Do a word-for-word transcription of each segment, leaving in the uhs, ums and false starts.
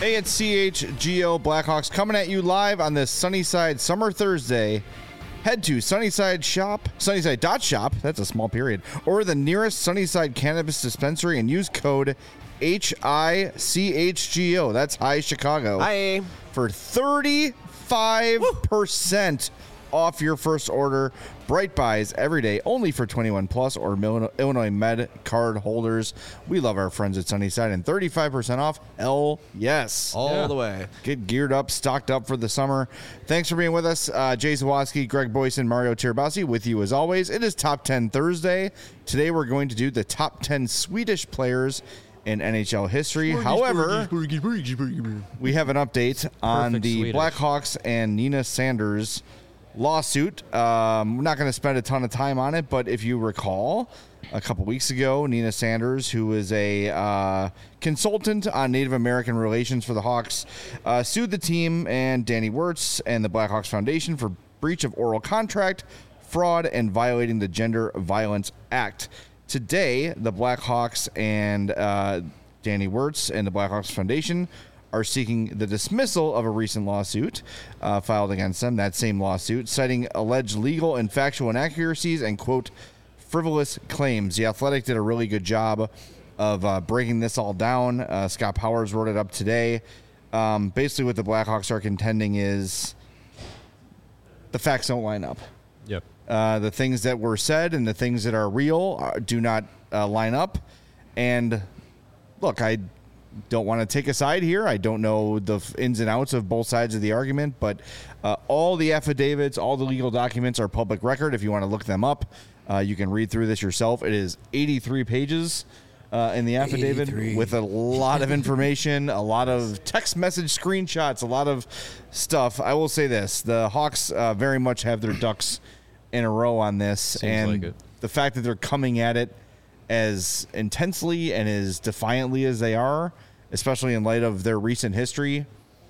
Hey, it's C H G O Blackhawks coming at you live on this Sunnyside Summer Thursday. Head to Sunnyside Shop, Sunnyside dot shop, that's a small period, or the nearest Sunnyside Cannabis Dispensary and use code H I C H G O, that's Hi Chicago, Hi. for thirty-five percent off your first order. Bright Buys every day, only for twenty-one plus or Illinois Med card holders. We love our friends at Sunnyside, and thirty-five percent off, hell yes. All Yeah. the way. Get geared up, stocked up for the summer. Thanks for being with us. Uh, Jay Zawoski, Greg Boyson, Mario Tirabassi with you as always. It is Top ten Thursday. Today we're going to do the top ten Swedish players in N H L history. However, we have an update on Perfect the Swedish. Blackhawks and Nina Sanders lawsuit. Um, we're not going to spend a ton of time on it, but if you recall, a couple weeks ago, Nina Sanders, who is a uh, consultant on Native American relations for the Hawks, uh, sued the team and Danny Wirtz and the Blackhawks Foundation for breach of oral contract, fraud, and violating the Gender Violence Act. Today, the Blackhawks and uh, Danny Wirtz and the Blackhawks Foundation are seeking the dismissal of a recent lawsuit uh, filed against them, that same lawsuit, citing alleged legal and factual inaccuracies and, quote, frivolous claims. The Athletic did a really good job of uh, breaking this all down. Uh, Scott Powers wrote it up today. Um, basically, what the Blackhawks are contending is the facts don't line up. Yep. Uh, the things that were said and the things that are real are, do not uh, line up. And look, I don't want to take a side here. I don't know the ins and outs of both sides of the argument, but uh, all the affidavits, all the legal documents are public record. If you want to look them up, uh, you can read through this yourself. It is eighty-three pages uh, in the affidavit eighty-three with a lot of information, a lot of text message screenshots, a lot of stuff. I will say this. The Hawks uh, very much have their ducks in a row on this. Seems and like it. The fact that they're coming at it as intensely and as defiantly as they are, especially in light of their recent history,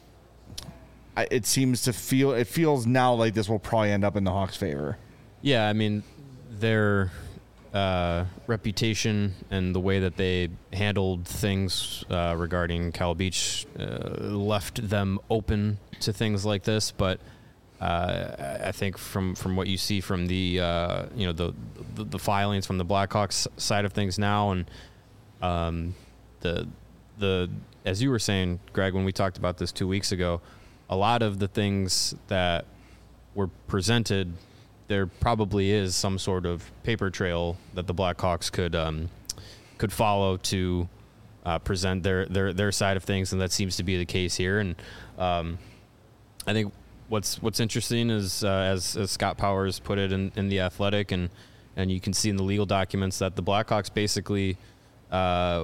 I, it seems to feel, it feels now like this will probably end up in the Hawks' favor. Yeah, I mean, their uh, reputation and the way that they handled things uh, regarding Cal Beach uh, left them open to things like this. But uh, I think from, from what you see from the uh, you know the, the the filings from the Blackhawks side of things now, and um, the the as you were saying, Greg, when we talked about this two weeks ago, a lot of the things that were presented, there probably is some sort of paper trail that the Blackhawks could um, could follow to uh, present their, their their side of things, and that seems to be the case here. And um, I think what's what's interesting is, uh, as, as Scott Powers put it in, in the Athletic, and and you can see in the legal documents that the Blackhawks basically uh,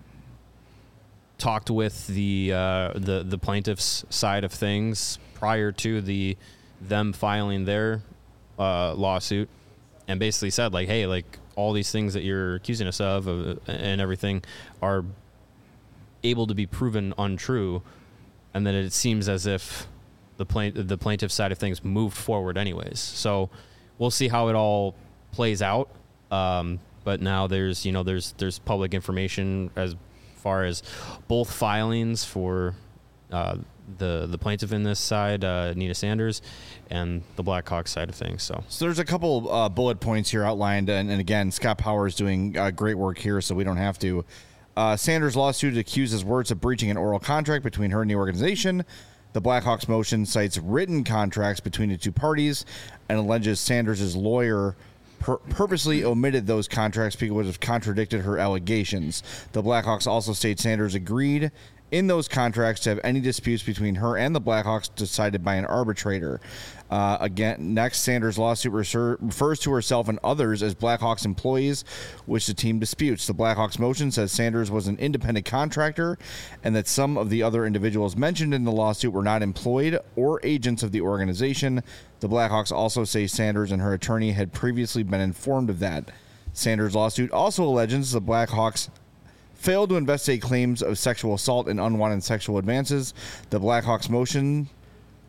talked with the uh, the the plaintiff's side of things prior to the them filing their uh, lawsuit, and basically said, like, hey, like, all these things that you're accusing us of uh, and everything are able to be proven untrue, and then it seems as if the plaint the plaintiff side of things moved forward anyways. So we'll see how it all plays out. Um, but now there's you know there's there's public information as far as both filings for uh, the the plaintiff in this side, uh, Nina Sanders, and the Blackhawks side of things. So, So there's a couple uh, bullet points here outlined, and, and again, Scott Powers doing uh, great work here, so we don't have to. Uh, Sanders' lawsuit accuses Wirtz of breaching an oral contract between her and the organization. The Blackhawks motion cites written contracts between the two parties and alleges Sanders' lawyer pur- purposely omitted those contracts because it would have contradicted her allegations. The Blackhawks also state Sanders agreed in those contracts to have any disputes between her and the Blackhawks decided by an arbitrator. Uh, again, next, Sanders' lawsuit reser- refers to herself and others as Blackhawks employees, which the team disputes. The Blackhawks motion says Sanders was an independent contractor and that some of the other individuals mentioned in the lawsuit were not employed or agents of the organization. The Blackhawks also say Sanders and her attorney had previously been informed of that. Sanders' lawsuit also alleges the Blackhawks failed to investigate claims of sexual assault and unwanted sexual advances. The Blackhawks motion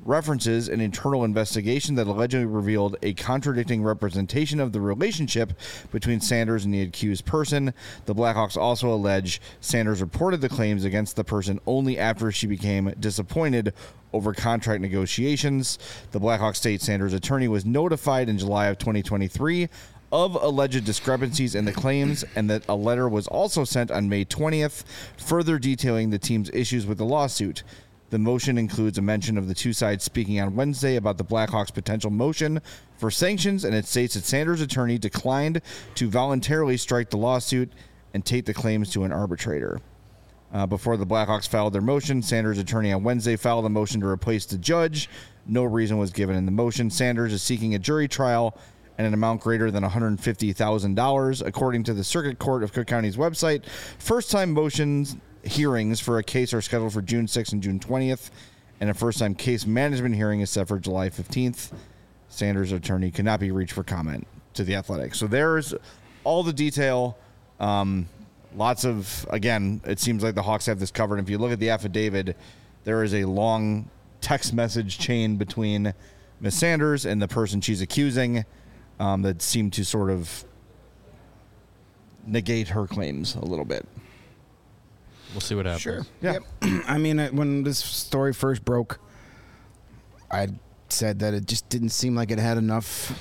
references an internal investigation that allegedly revealed a contradicting representation of the relationship between Sanders and the accused person. The Blackhawks also allege Sanders reported the claims against the person only after she became disappointed over contract negotiations. The Blackhawks state Sanders' attorney was notified in July of twenty twenty-three of alleged discrepancies in the claims, and that a letter was also sent on May twentieth, further detailing the team's issues with the lawsuit. The motion includes a mention of the two sides speaking on Wednesday about the Blackhawks' potential motion for sanctions, and it states that Sanders' attorney declined to voluntarily strike the lawsuit and take the claims to an arbitrator. Uh, before the Blackhawks filed their motion, Sanders' attorney on Wednesday filed a motion to replace the judge. No reason was given in the motion. Sanders is seeking a jury trial and an amount greater than one hundred fifty thousand dollars, according to the Circuit Court of Cook County's website. First-time motions hearings for a case are scheduled for June sixth and June twentieth, and a first-time case management hearing is set for July fifteenth. Sanders' attorney cannot be reached for comment to The Athletic. So there's all the detail. Um, lots of, again, it seems like the Hawks have this covered. If you look at the affidavit, there is a long text message chain between Miz Sanders and the person she's accusing um, that seem to sort of negate her claims a little bit. We'll see what happens. Sure. Yeah. Yep. I mean, uh, when this story first broke, I said that it just didn't seem like it had enough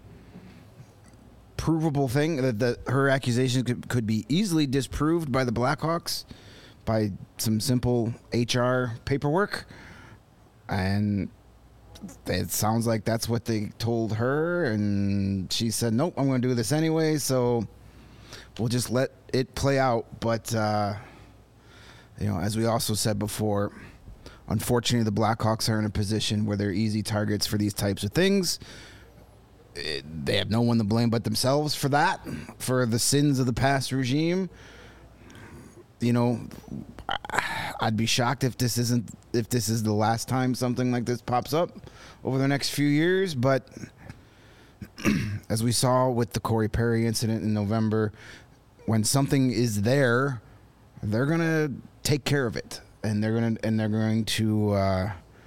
provable thing that, that her accusations could, could be easily disproved by the Blackhawks by some simple H R paperwork. And it sounds like that's what they told her, and she said, nope, I'm going to do this anyway, so we'll just let it play out. But uh you know, as we also said before, unfortunately, the Blackhawks are in a position where they're easy targets for these types of things. It, they have no one to blame but themselves for that, for the sins of the past regime. You know, I'd be shocked if this isn't if this is the last time something like this pops up over the next few years. But as we saw with the Corey Perry incident in November, when something is there, they're gonna take care of it, and they're gonna and they're going to uh,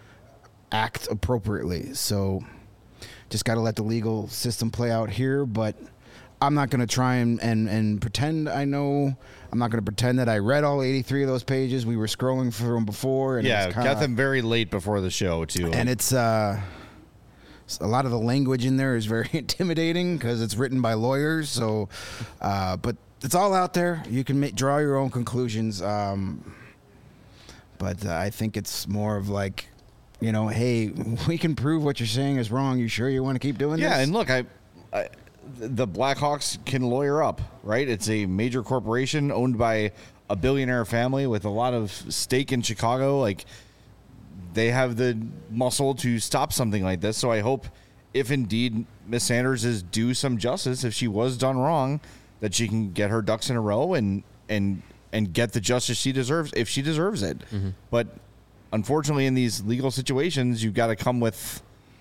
act appropriately. So, just got to let the legal system play out here. But I'm not gonna try and, and, and pretend I know. I'm not gonna pretend that I read all eighty-three of those pages. We were scrolling through them before, and Yeah, it's kinda, got them very late before the show, too. and it's uh, a lot of the language in there is very intimidating because it's written by lawyers. So, uh, but. It's all out there. You can make, draw your own conclusions. Um, but uh, I think it's more of like, you know, hey, we can prove what you're saying is wrong. You sure you want to keep doing yeah, this? Yeah, and look, I, I, the Blackhawks can lawyer up, right? It's a major corporation owned by a billionaire family with a lot of stake in Chicago. Like, they have the muscle to stop something like this. So I hope, if indeed Miz Sanders is due some justice, if she was done wrong, that she can get her ducks in a row and and and get the justice she deserves if she deserves it. Mm-hmm. But unfortunately, in these legal situations, you've got to come with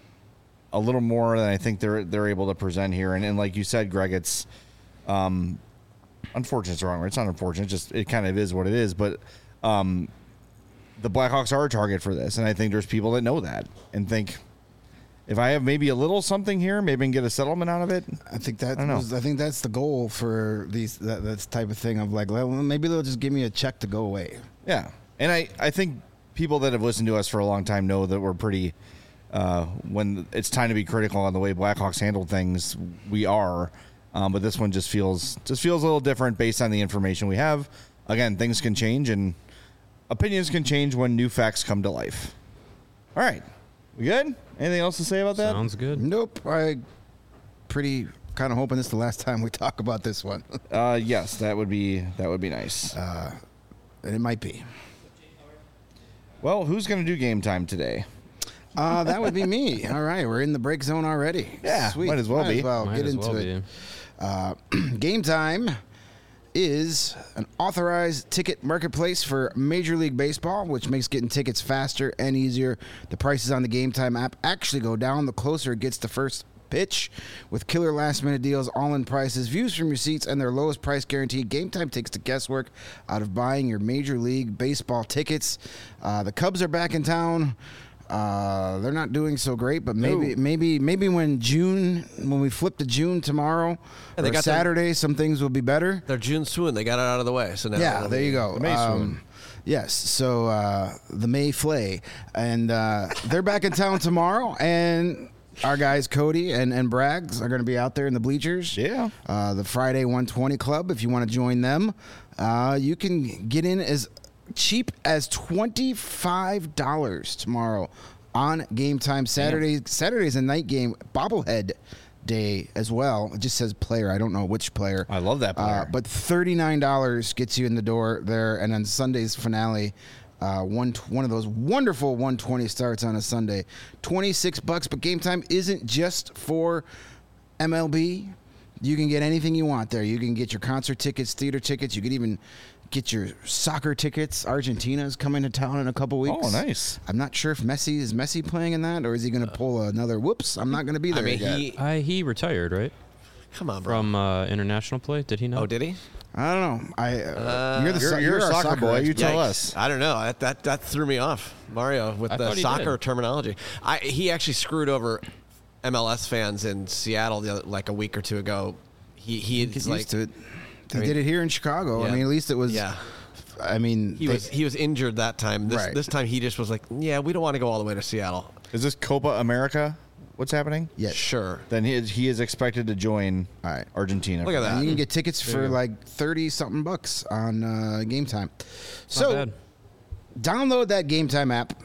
a little more than I think they're they're able to present here. And, and like you said, Greg, it's um, unfortunate. It's wrong. It's not unfortunate. It's just it kind of is what it is. But um, the Blackhawks are a target for this, and I think there's people that know that and think, if I have maybe a little something here, maybe I can get a settlement out of it. I think that I, was, I think that's the goal for these that, that type of thing of like, well, maybe they'll just give me a check to go away. Yeah, and I, I think people that have listened to us for a long time know that we're pretty. Uh, when it's time to be critical on the way Blackhawks handled things, we are. Um, but this one just feels just feels a little different based on the information we have. Again, things can change and opinions can change when new facts come to life. All right. We good? Anything else to say about that? Sounds good. Nope. I pretty kind of hoping this is the last time we talk about this one. uh, yes, that would be that would be nice. Uh, and it might be. Well, who's going to do game time today? Uh, that would be me. All right, we're in the break zone already. Yeah, Sweet. might as well might be. As well Might get as into well it. Uh, game time is an authorized ticket marketplace for Major League Baseball, which makes getting tickets faster and easier. The prices on the Game Time app actually go down the closer it gets to first pitch. With killer last-minute deals, all-in prices, views from your seats, and their lowest price guarantee, Game Time takes the guesswork out of buying your Major League Baseball tickets. Uh, the Cubs are back in town. Uh, they're not doing so great, but maybe, No. maybe, maybe when June, when we flip to June tomorrow, Yeah, they or got their- Saturday, some things will be better. They're June swoon. They got it out of the way. So now Yeah, there you go. The May Um, swoon. yes, so uh, the May Flay, and uh, they're back in town tomorrow, and our guys Cody and, and Braggs are going to be out there in the bleachers. Yeah. Uh, the Friday one twenty Club, if you want to join them, uh, you can get in as cheap as twenty-five dollars tomorrow on Game Time. Saturday, Saturday's a night game, bobblehead day as well. It just says player. I don't know which player. I love that player. Uh, but thirty-nine dollars gets you in the door there, and then Sunday's finale, uh, one one of those wonderful one twenty starts on a Sunday, twenty-six bucks. But Game Time isn't just for M L B. You can get anything you want there. You can get your concert tickets, theater tickets. You could even get your soccer tickets. Argentina's coming to town in a couple weeks. Oh, nice. I'm not sure if Messi is Messi playing in that, or is he going to pull another? Whoops, I'm not going to be there. I mean, yet. he. I, he retired, right? Come on, bro. From uh, international play. Did he not? Oh, did he? I don't know. I uh, you're the You're, so- you're a our soccer, boy. You expert. tell Yikes. us. I don't know. That that, that threw me off, Mario, with I the thought he soccer did. terminology. I he actually screwed over M L S fans in Seattle the other, like a week or two ago. He he Get is used like to it. They I mean- did it here in Chicago. I Yeah. mean, at least it was. yeah. I mean, He they- was he was injured that time. This Right. this time he just was like, yeah, we don't want to go all the way to Seattle. Is this Copa America? What's happening? Yes. Sure. Then he is, he is expected to join All right. Argentina. Look at that. And you can get tickets for you go. like thirty something bucks on uh, Game Time. Not So bad. download that Game Time app.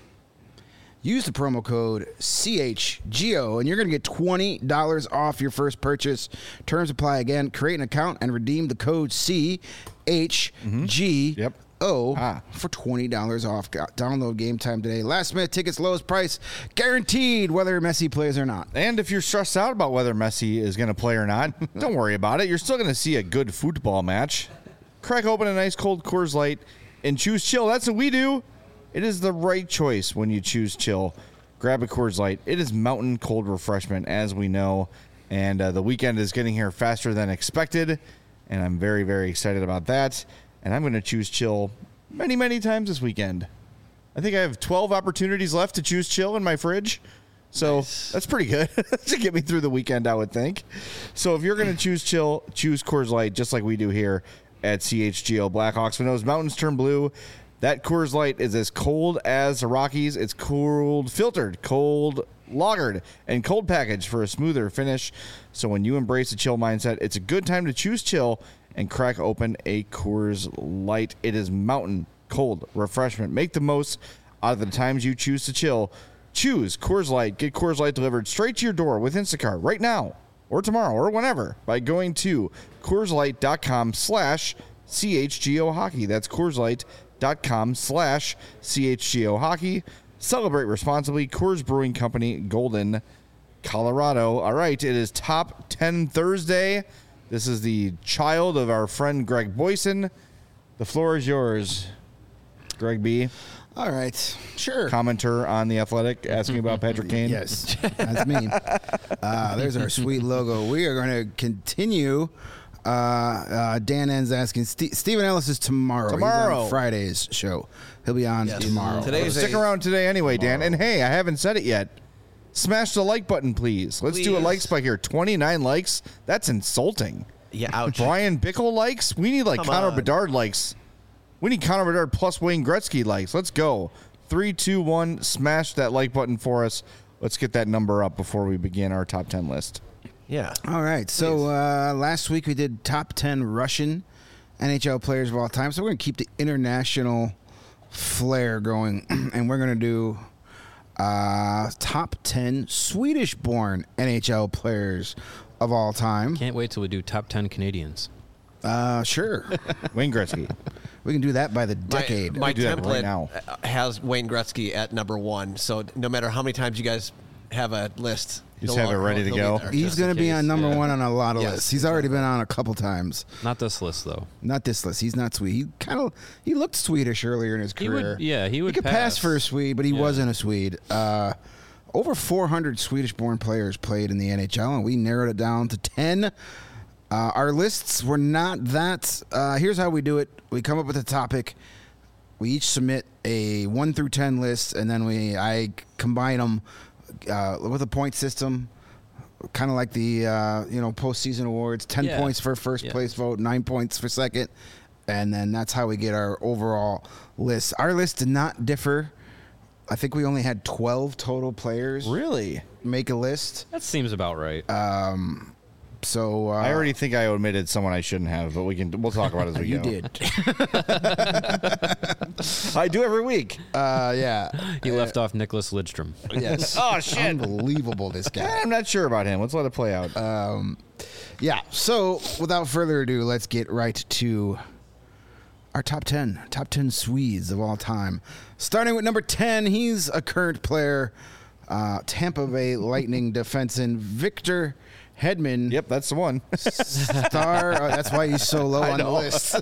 Use the promo code C H G O, and you're going to get twenty dollars off your first purchase. Terms apply again. Create an account and redeem the code C H G O Yep. Ah. for twenty dollars off. Go- Download Game Time today. Last minute tickets, lowest price, guaranteed whether Messi plays or not. And if you're stressed out about whether Messi is going to play or not, don't worry about it. You're still going to see a good football match. Crack open a nice cold Coors Light and choose chill. That's what we do. It is the right choice when you choose chill. Grab a Coors Light. It is mountain cold refreshment, as we know. And uh, the weekend is getting here faster than expected. And I'm very, very excited about that. And I'm going to choose chill many, many times this weekend. I think I have twelve opportunities left to choose chill in my fridge. So that's pretty good to get me through the weekend, I would think. So if you're going to choose chill, choose Coors Light, just like we do here at C H G O Blackhawks. When those mountains turn blue, that Coors Light is as cold as the Rockies. It's cold filtered, cold lagered, and cold packaged for a smoother finish. So when you embrace a chill mindset, it's a good time to choose chill and crack open a Coors Light. It is mountain cold refreshment. Make the most out of the times you choose to chill. Choose Coors Light. Get Coors Light delivered straight to your door with Instacart right now or tomorrow or whenever by going to CoorsLight.com slash CHGO Hockey. That's CoorsLight.com slash CHGO Hockey. Celebrate responsibly. Coors Brewing Company, Golden, Colorado. All right, it is Top ten Thursday. This is the child of our friend Greg Boyson. The floor is yours, Greg B. All right. Sure. Commenter on The Athletic, asking about Patrick Kane. Yes, that's me. Uh, there's our sweet logo. We are going to continue. Uh, uh, Dan N's asking. Ste Stephen Ellis is tomorrow. He's Tomorrow. on Friday's show. He'll be on Yes. tomorrow. Today Well, is stick a- around today anyway, Dan. And hey, I haven't said it yet. Smash the like button, please. Let's do a Please. like spike here. twenty-nine likes. That's insulting. Yeah, ouch. Brian Bickle likes. We need like Come Connor on. Bedard likes. We need Connor Bedard plus Wayne Gretzky likes. Let's go. Three, two, one. Smash that like button for us. Let's get that number up before we begin our top ten list. Yeah. All right. So uh, last week we did top ten Russian N H L players of all time. So we're going to keep the international flair going, and we're going to do uh, top ten Swedish-born N H L players of all time. Can't wait till we do top ten Canadians. Uh, sure. Wayne Gretzky. We can do that by the My- decade. My, do that template right now. uh, has Wayne Gretzky at number one. So no matter how many times you guys have a list, Just he'll have it al- ready to he'll be go. there. He's just going in to be case, on number yeah. one on a lot of Yes, lists. He's already been on a couple times. Not this list though. Not this list. He's not Swede. He kind of he looked Swedish earlier in his He career. would, yeah, he would he could pass. pass for a Swede, but he Yeah. wasn't a Swede. Uh, over four hundred Swedish-born players played in the N H L, and we narrowed it down to ten. Uh, our lists were not that. Uh, here's how we do it: we come up with a topic. we each submit a one through ten list, and then we I combine them uh, with a point system, kind of like the uh, you know postseason awards. Ten Yeah. points for first Yeah. place vote, nine points for second, and then that's how we get our overall list. Our list did not differ. I think we only had twelve total players Really? make a list. That seems about right. So uh, I already think I omitted someone I shouldn't have, but we can we'll talk about it as we you go. did. I do every week. Uh, yeah. he left off Nicholas Lidstrom. Yes. Oh shit! Unbelievable, this guy. I'm not sure about him. Let's let it play out. Yeah. So without further ado, let's get right to our top ten. Top ten Swedes of all time. Starting with number ten, he's a current player, uh, Tampa Bay Lightning defenseman Victor Hedman. Yep, that's the one. Star. Uh, that's why he's so low I on the know. list.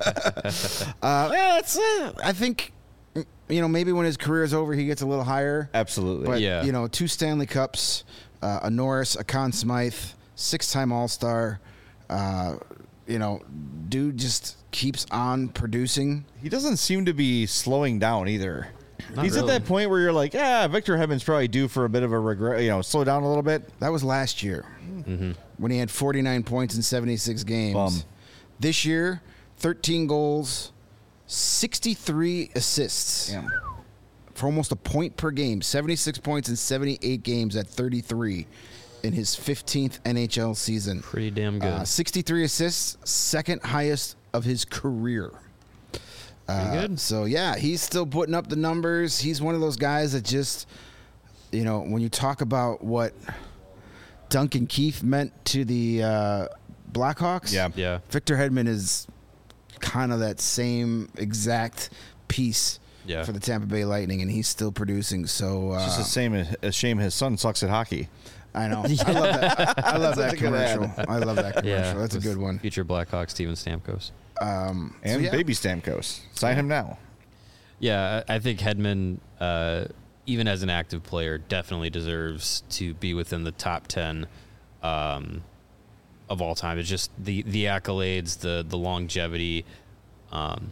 uh, yeah, it's, uh, I think, you know, maybe when his career is over, he gets a little higher. Absolutely. But, Yeah. you know, two Stanley Cups, uh, a Norris, a Conn Smythe, six-time All-Star. Uh, you know, dude just keeps on producing. He doesn't seem to be slowing down either. Not He's at really. that point where you're like, yeah, Victor Hedman's probably due for a bit of a regret, you know, slow down a little bit. That was last year when he had forty-nine points in seventy-six games. Bum. This year, thirteen goals, sixty-three assists. Yeah. For almost a point per game, seventy-six points in seventy-eight games at thirty-three in his fifteenth N H L season. Pretty damn good. Uh, sixty-three assists, second highest of his career. Uh, Pretty good. So, yeah, he's still putting up the numbers. He's one of those guys that just, you know, when you talk about what Duncan Keith meant to the uh, Blackhawks, Yeah. Yeah. Victor Hedman is kind of that same exact piece Yeah. for the Tampa Bay Lightning, and he's still producing. So uh, It's just the same as a shame his son sucks at hockey. I know. I love that. I love that That's a good ad. commercial. I love that commercial. Yeah. That's a with good one. Future Blackhawk Steven Stamkos. Um, so And yeah. baby Stamkos. Sign him now. Yeah, I I think Hedman, uh, even as an active player, definitely deserves to be within the top ten um, of all time. It's just the the accolades, the the longevity. Um,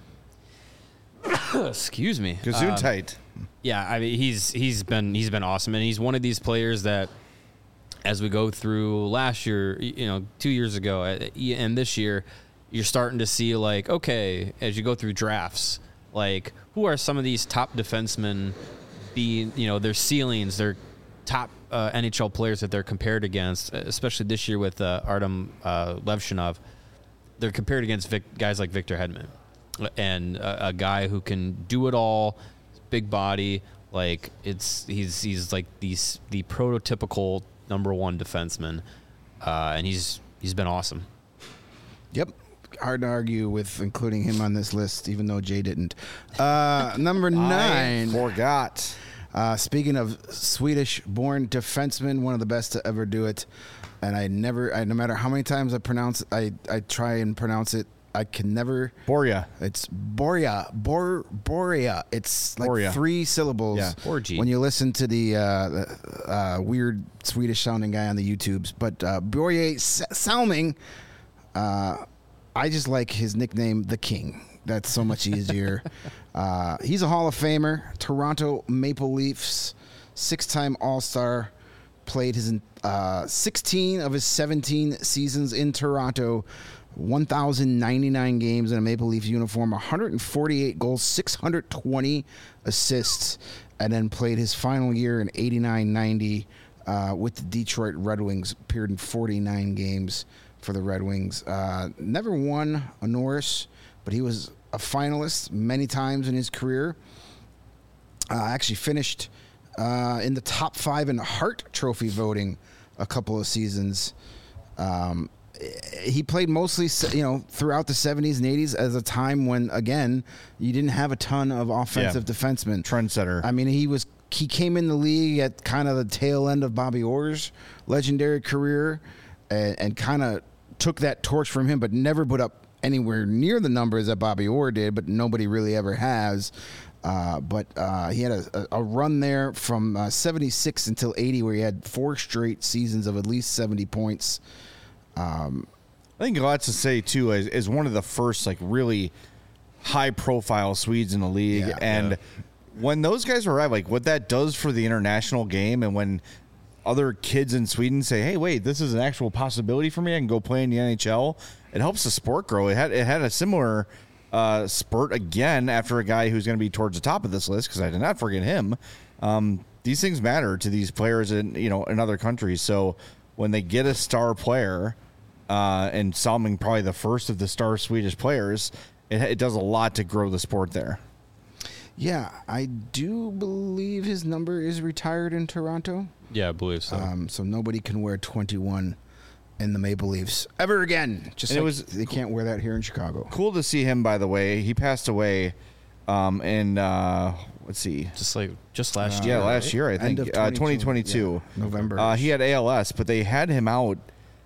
excuse me. Gazoon Um, tight. Yeah, I mean he's he's been he's been awesome, and he's one of these players that, as we go through last year, y- you know, two years ago, uh, y- and this year, you're starting to see like, okay, as you go through drafts, like who are some of these top defensemen, being you know their ceilings, their top uh, N H L players that they're compared against, especially this year with uh, Artem uh, Levshinov, they're compared against Vic, guys like Victor Hedman, and a, a guy who can do it all, big body, like it's he's he's like these the prototypical number one defenseman, uh, and he's he's been awesome. Yep. Hard to argue with including him on this list, even though Jay didn't. Uh, number nine. I forgot. Uh, speaking of Swedish-born defenseman, one of the best to ever do it, and I never, I, no matter how many times I pronounce, I I try and pronounce it, I can never. Borja. It's Borja, Bor Borja. It's like Borja. three syllables. Yeah. Borgi. When you listen to the uh, the, uh, weird Swedish-sounding guy on the YouTubes, but uh, Borja S- Salming. Uh, I just like his nickname, The King. That's so much easier. uh, he's a Hall of Famer, Toronto Maple Leafs, six-time All-Star, played his uh, sixteen of his seventeen seasons in Toronto, one thousand ninety-nine games in a Maple Leaf uniform, one hundred forty-eight goals, six hundred twenty assists, and then played his final year in eighty-nine ninety uh, with the Detroit Red Wings, appeared in forty-nine games for the Red Wings. Uh, never won a Norris, but he was a finalist many times in his career. Uh, actually finished uh, in the top five in Hart Trophy voting a couple of seasons. Um, he played mostly, you know, throughout the seventies and eighties as a time when, again, you didn't have a ton of offensive Yeah. defensemen. Trendsetter. I mean, he was he came in the league at kind of the tail end of Bobby Orr's legendary career, and, and kind of took that torch from him, but never put up anywhere near the numbers that Bobby Orr did, but nobody really ever has. Uh, but uh, he had a, a run there from uh, seventy-six until eighty where he had four straight seasons of at least seventy points. I think lots to say too is, is one of the first like really high-profile Swedes in the league, Yeah. and Yeah. when those guys arrive, like what that does for the international game, and when other kids in Sweden say, "Hey, wait, this is an actual possibility for me. I can go play in the N H L." It helps the sport grow. It had it had a similar uh, spurt again after a guy who's going to be towards the top of this list, because I did not forget him. Um, these things matter to these players in you know in other countries. So when they get a star player, uh, and Salming probably the first of the star Swedish players, it, it does a lot to grow the sport there. Yeah, I do believe his number is retired in Toronto. Yeah, I believe so. Um, so nobody can wear twenty-one in the Maple Leafs ever again. Just And it like was they can't wear that here in Chicago. Cool to see him, by the way. He passed away um, in, uh, let's see. just like just last Uh, year. Yeah, last right? year, I End think. of Uh, twenty twenty twenty-two. yeah, November. Uh, he had A L S, but they had him out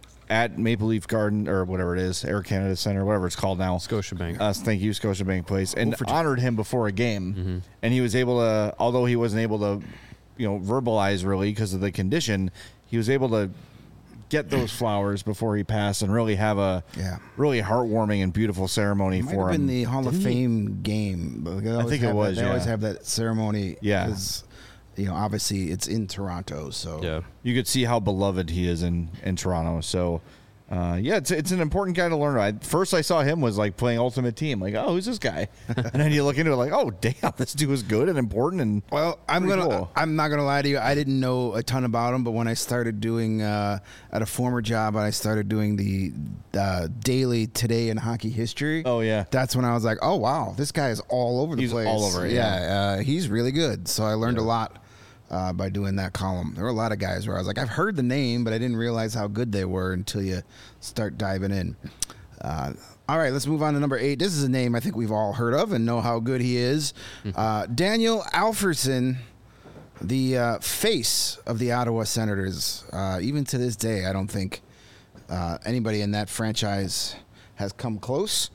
at Maple Leaf Garden, or whatever it is, Air Canada Center, whatever it's called now. Scotiabank. Uh, thank you, Scotiabank Place, and Oh, for two. honored him before a game. Mm-hmm. And he was able to, although he wasn't able to, you know, verbalize really because of the condition, he was able to get those flowers before he passed and really have a Yeah. really heartwarming and beautiful ceremony It might for have him. been the Hall of Fame game. But they always think it have was, That, they always yeah. have that ceremony. Yeah. 'cause, you know, obviously it's in Toronto, so yeah. You could see how beloved he is in, in Toronto. So, uh, yeah, it's it's an important guy to learn. I, first, I saw him was like playing Ultimate Team. Like, oh, who's this guy? And then you look into it like, oh, damn, this dude was good and important. And Well, I'm Pretty gonna. cool. I'm not gonna lie to you. I didn't know a ton about him, but when I started doing uh, at a former job, I started doing the uh, daily Today in Hockey History. Oh, yeah. that's when I was like, oh wow, this guy is all over the He's place. all over it, Yeah, Uh, he's really good. So I learned a lot uh, by doing that column. There were a lot of guys where I was like, I've heard the name, but I didn't realize how good they were until you start diving in. Uh, all right, let's move on to number eight. This is a name I think we've all heard of and know how good he is. Uh, Daniel Alfredsson, the uh, face of the Ottawa Senators. Uh, even to this day, I don't think uh, anybody in that franchise has come close.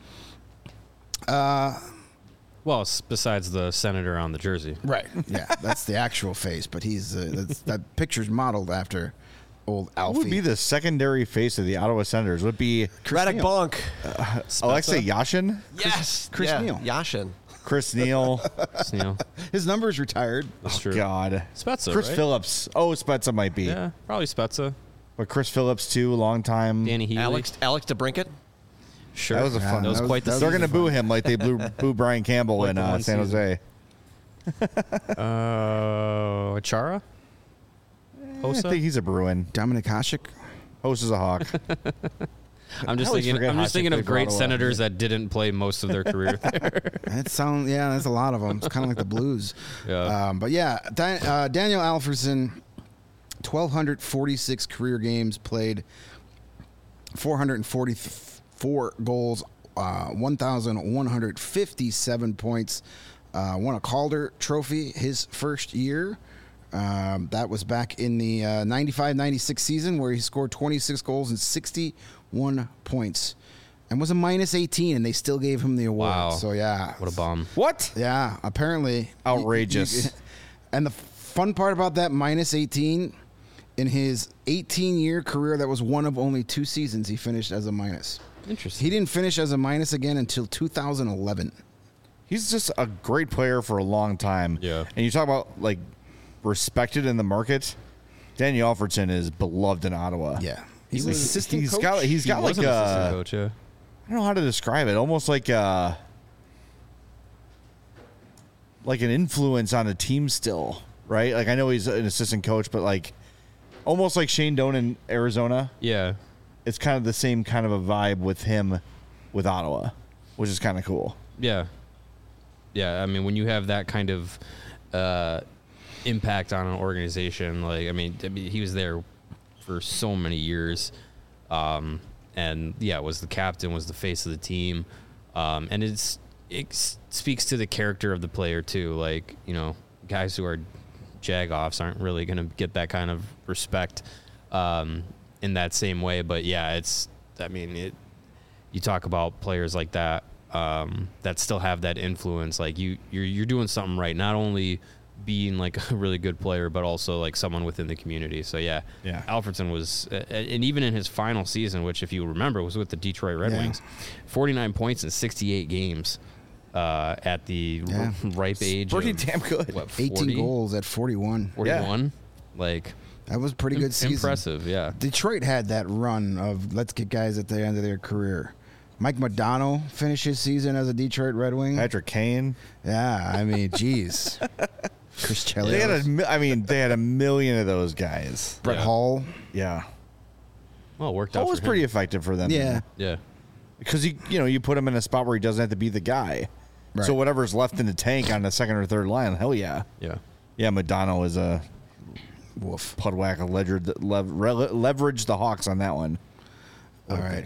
Uh, Well, s- besides the senator on the jersey. right. Yeah, that's the actual face, but he's uh, that's, that picture's modeled after old who Alfie. would be the secondary face of the Ottawa Senators? Would it be Radek Neal. Bonk. Alexei Yashin, Yes. Chris yeah. Neal. Yashin. Chris Neal? Sneal. His number is retired. That's true. God. Spezza, Chris right? Phillips. Oh, Spezza might be. Yeah, probably Spezza. But Chris Phillips, too, long time. Danny Healy. Alex Alex DeBrincat. Sure. That was a Yeah, fun. That was that was- quite the that They're was going to a boo fun- him like they blew, boo Brian Campbell Like in the uh, one San season. Jose. Uh, Achara? I Hossa? think he's a Bruin. Dominic Hasek. Host is a Hawk. I'm just I always thinking. forget I'm just Hasek thinking played of for great Ottawa. senators that didn't play most of their career there. That sound yeah, that's a lot of them. It's kind of like the Blues. Yeah. Um, but yeah, Di- uh, Daniel Alfredsson, twelve forty-six career games played, four hundred forty-four goals, uh, one thousand one hundred fifty-seven points. Uh, won a Calder Trophy his first year. Um, that was back in the uh, ninety-five ninety-six season where he scored twenty-six goals and sixty-one points. And was a minus eighteen, and they still gave him the award. Wow. So, yeah. What a bomb. What? Yeah, apparently. Outrageous. You- you- and the fun part about that minus eighteen, in his eighteen-year career, that was one of only two seasons he finished as a minus. Interesting. He didn't finish as a minus again until two thousand eleven. He's just a great player for a long time. Yeah. And you talk about, like, respected in the market. Daniel Alfredsson is beloved in Ottawa. Yeah. He's, He was like, assistant he's coach? got he's He got was like an assistant a coach, yeah. I don't know how to describe it. Almost like a like an influence on a team still, right? Like I know he's an assistant coach, but like almost like Shane Doan in Arizona. Yeah. It's kind of the same kind of a vibe with him with Ottawa, which is kind of cool. Yeah. Yeah, I mean, when you have that kind of uh, impact on an organization, like, I mean, I mean, he was there for so many years. Um, and, yeah, was the captain, was the face of the team. Um, and it's it s- speaks to the character of the player, too. Like, you know, guys who are jag-offs aren't really going to get that kind of respect um, in that same way. But, yeah, it's, I mean, it. You talk about players like that. Um, that still have that influence. Like you, you're you're doing something right. Not only being like a really good player, but also like someone within the community. So yeah, Yeah. Alfredsson was, uh, and even in his final season, which if you remember was with the Detroit Red Yeah. Wings, forty-nine points in sixty-eight games. uh, at the Yeah. r- ripe age pretty of, damn good. What, eighteen forty? goals at forty-one. forty-one? Like, That was a pretty good im- season. impressive, yeah. Detroit had that run of let's get guys at the end of their career. Mike Modano finished his season as a Detroit Red Wing. Patrick Kane. Yeah, I mean, geez. Chris Chelios. They had a, mi- I mean, they had a million of those guys. Brett Yeah. Hall. Yeah. Well, it worked That out was for him. pretty effective for them. Yeah. Yeah. Because you you know you put him in a spot where he doesn't have to be the guy. Right. So whatever's left in the tank on the second or third line, hell yeah, Yeah. yeah. Madonna is a Woof. Pudwack leveraged lev, rele- leveraged the Hawks on that one. All right.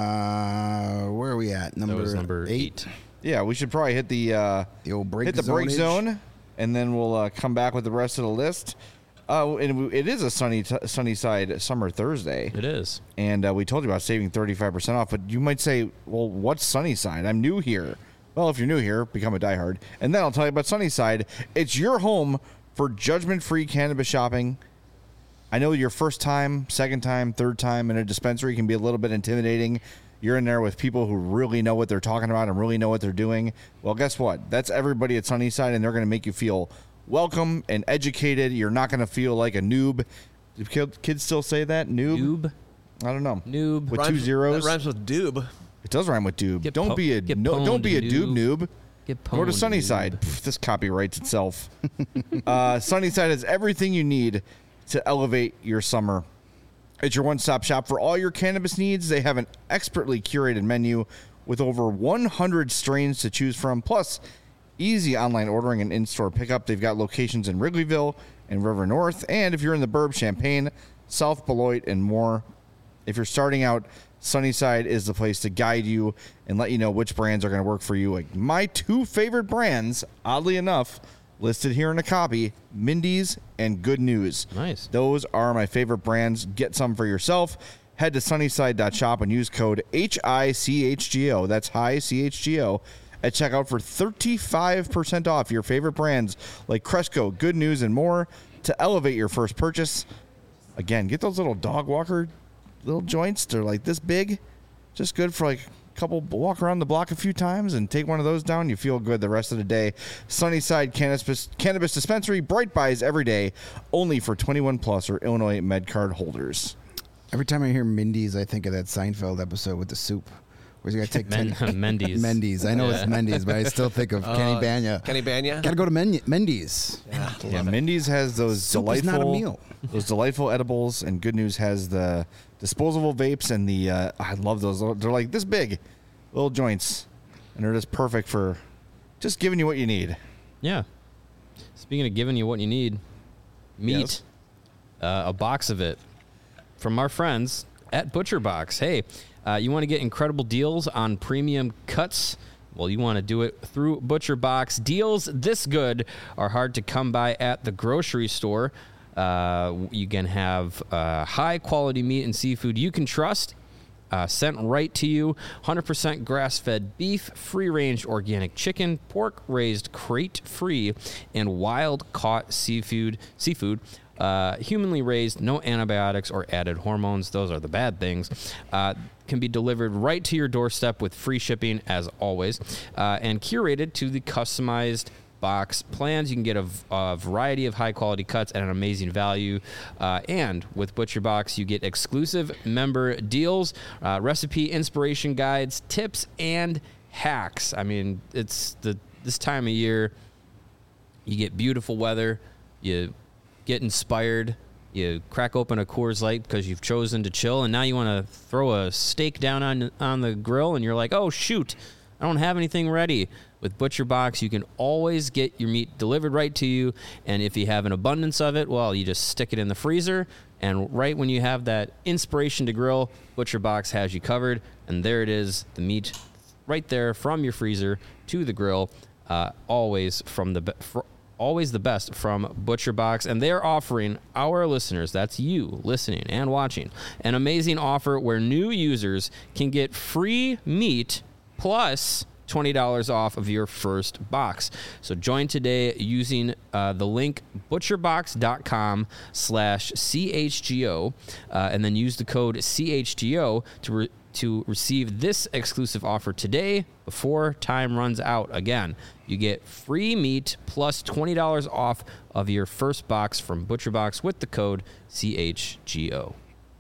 Uh, where are we at? Number, That was number eight. eight. Yeah, we should probably hit the uh, The old break hit the break zonage. zone, and then we'll uh, come back with the rest of the list. Uh, and it is a sunny t- sunny side summer Thursday, It is. and uh, we told you about saving thirty-five percent off. But you might say, well, what's Sunnyside? I'm new here. Well, if you're new here, become a diehard. And then I'll tell you about Sunnyside. It's your home for judgment-free cannabis shopping. I know your first time, second time, third time in a dispensary can be a little bit intimidating. You're in there with people who really know what they're talking about and really know what they're doing. Well, guess what? That's everybody at Sunnyside, and they're going to make you feel welcome and educated. You're not going to feel like a noob. Do kid- kids still say that? Noob? Noob. I don't know. Noob. With Rhymes- two zeros? That rhymes with doob. It does rhyme with doob. Get don't po- be a get no, don't pwned, be a doob noob. noob. Get Go to pwned, Sunnyside. noob. Pff, this copyrights itself. uh, Sunnyside has everything you need to elevate your summer. It's your one-stop shop for all your cannabis needs. They have an expertly curated menu with over one hundred strains to choose from, plus easy online ordering and in-store pickup. They've got locations in Wrigleyville and River North, and if you're in the Burbs, Champaign, South Beloit, and more. If you're starting out, Sunnyside is the place to guide you and let you know which brands are going to work for you. Like my two favorite brands, oddly enough, listed here in a copy, Mindy's and Good News. Nice. Those are my favorite brands. Get some for yourself. Head to sunnyside dot shop and use code H I C H G O. That's high C H G O at checkout for thirty-five percent off your favorite brands like Cresco, Good News, and more to elevate your first purchase. Again, get those little dog walker little joints. They're like this big. Just good for like a couple, walk around the block a few times and take one of those down. You feel good the rest of the day. Sunnyside Cannabis, Cannabis Dispensary, Bright Buys every day, only for twenty-one plus or Illinois MedCard holders. Every time I hear Mindy's, I think of that Seinfeld episode with the soup. Where's he got to take Men- ten? Mendy's. Mendy's. I know Yeah. it's Mendy's, but I still think of Kenny Uh, Banya. Kenny Banya? Got to go to Men- Mendy's. Yeah, Yeah, love it. Mindy's has those Soup is delightful, not a meal. those delightful edibles, and Good News has the disposable vapes and the. Uh, I love those. They're like this big, little joints, and they're just perfect for just giving you what you need. Yeah. Speaking of giving you what you need, meat, Yes. uh, a box of it from our friends at Butcher Box. Hey, uh, you want to get incredible deals on premium cuts? Well, you want to do it through Butcher Box. Deals this good are hard to come by at the grocery store. Uh, you can have uh, high quality meat and seafood you can trust. Uh, sent right to you. one hundred percent grass-fed beef, free-range organic chicken, pork raised crate-free, and wild-caught seafood. Seafood, uh, humanly raised, no antibiotics or added hormones. Those are the bad things. Uh, can be delivered right to your doorstep with free shipping, as always, uh, and curated to the customized box plans. You can get a, a variety of high quality cuts at an amazing value, uh, and with Butcher Box you get exclusive member deals, uh, recipe inspiration guides, tips, and hacks. I mean, it's the this time of year. You get beautiful weather, you get inspired, you crack open a Coors Light because you've chosen to chill, and now you want to throw a steak down on on the grill, and you're like, oh shoot, I don't have anything ready. With Butcher Box, you can always get your meat delivered right to you, and if you have an abundance of it, well, you just stick it in the freezer, and right when you have that inspiration to grill, Butcher Box has you covered, and there it is, the meat right there from your freezer to the grill, uh, always from the be- fr- always the best from Butcher Box, and they're offering our listeners, that's you listening and watching, an amazing offer where new users can get free meat plus twenty dollars off of your first box. So join today using uh, the link butcherbox.com slash CHGO uh, and then use the code C H G O to re- to receive this exclusive offer today before time runs out. Again, you get free meat plus twenty dollars off of your first box from ButcherBox with the code C H G O.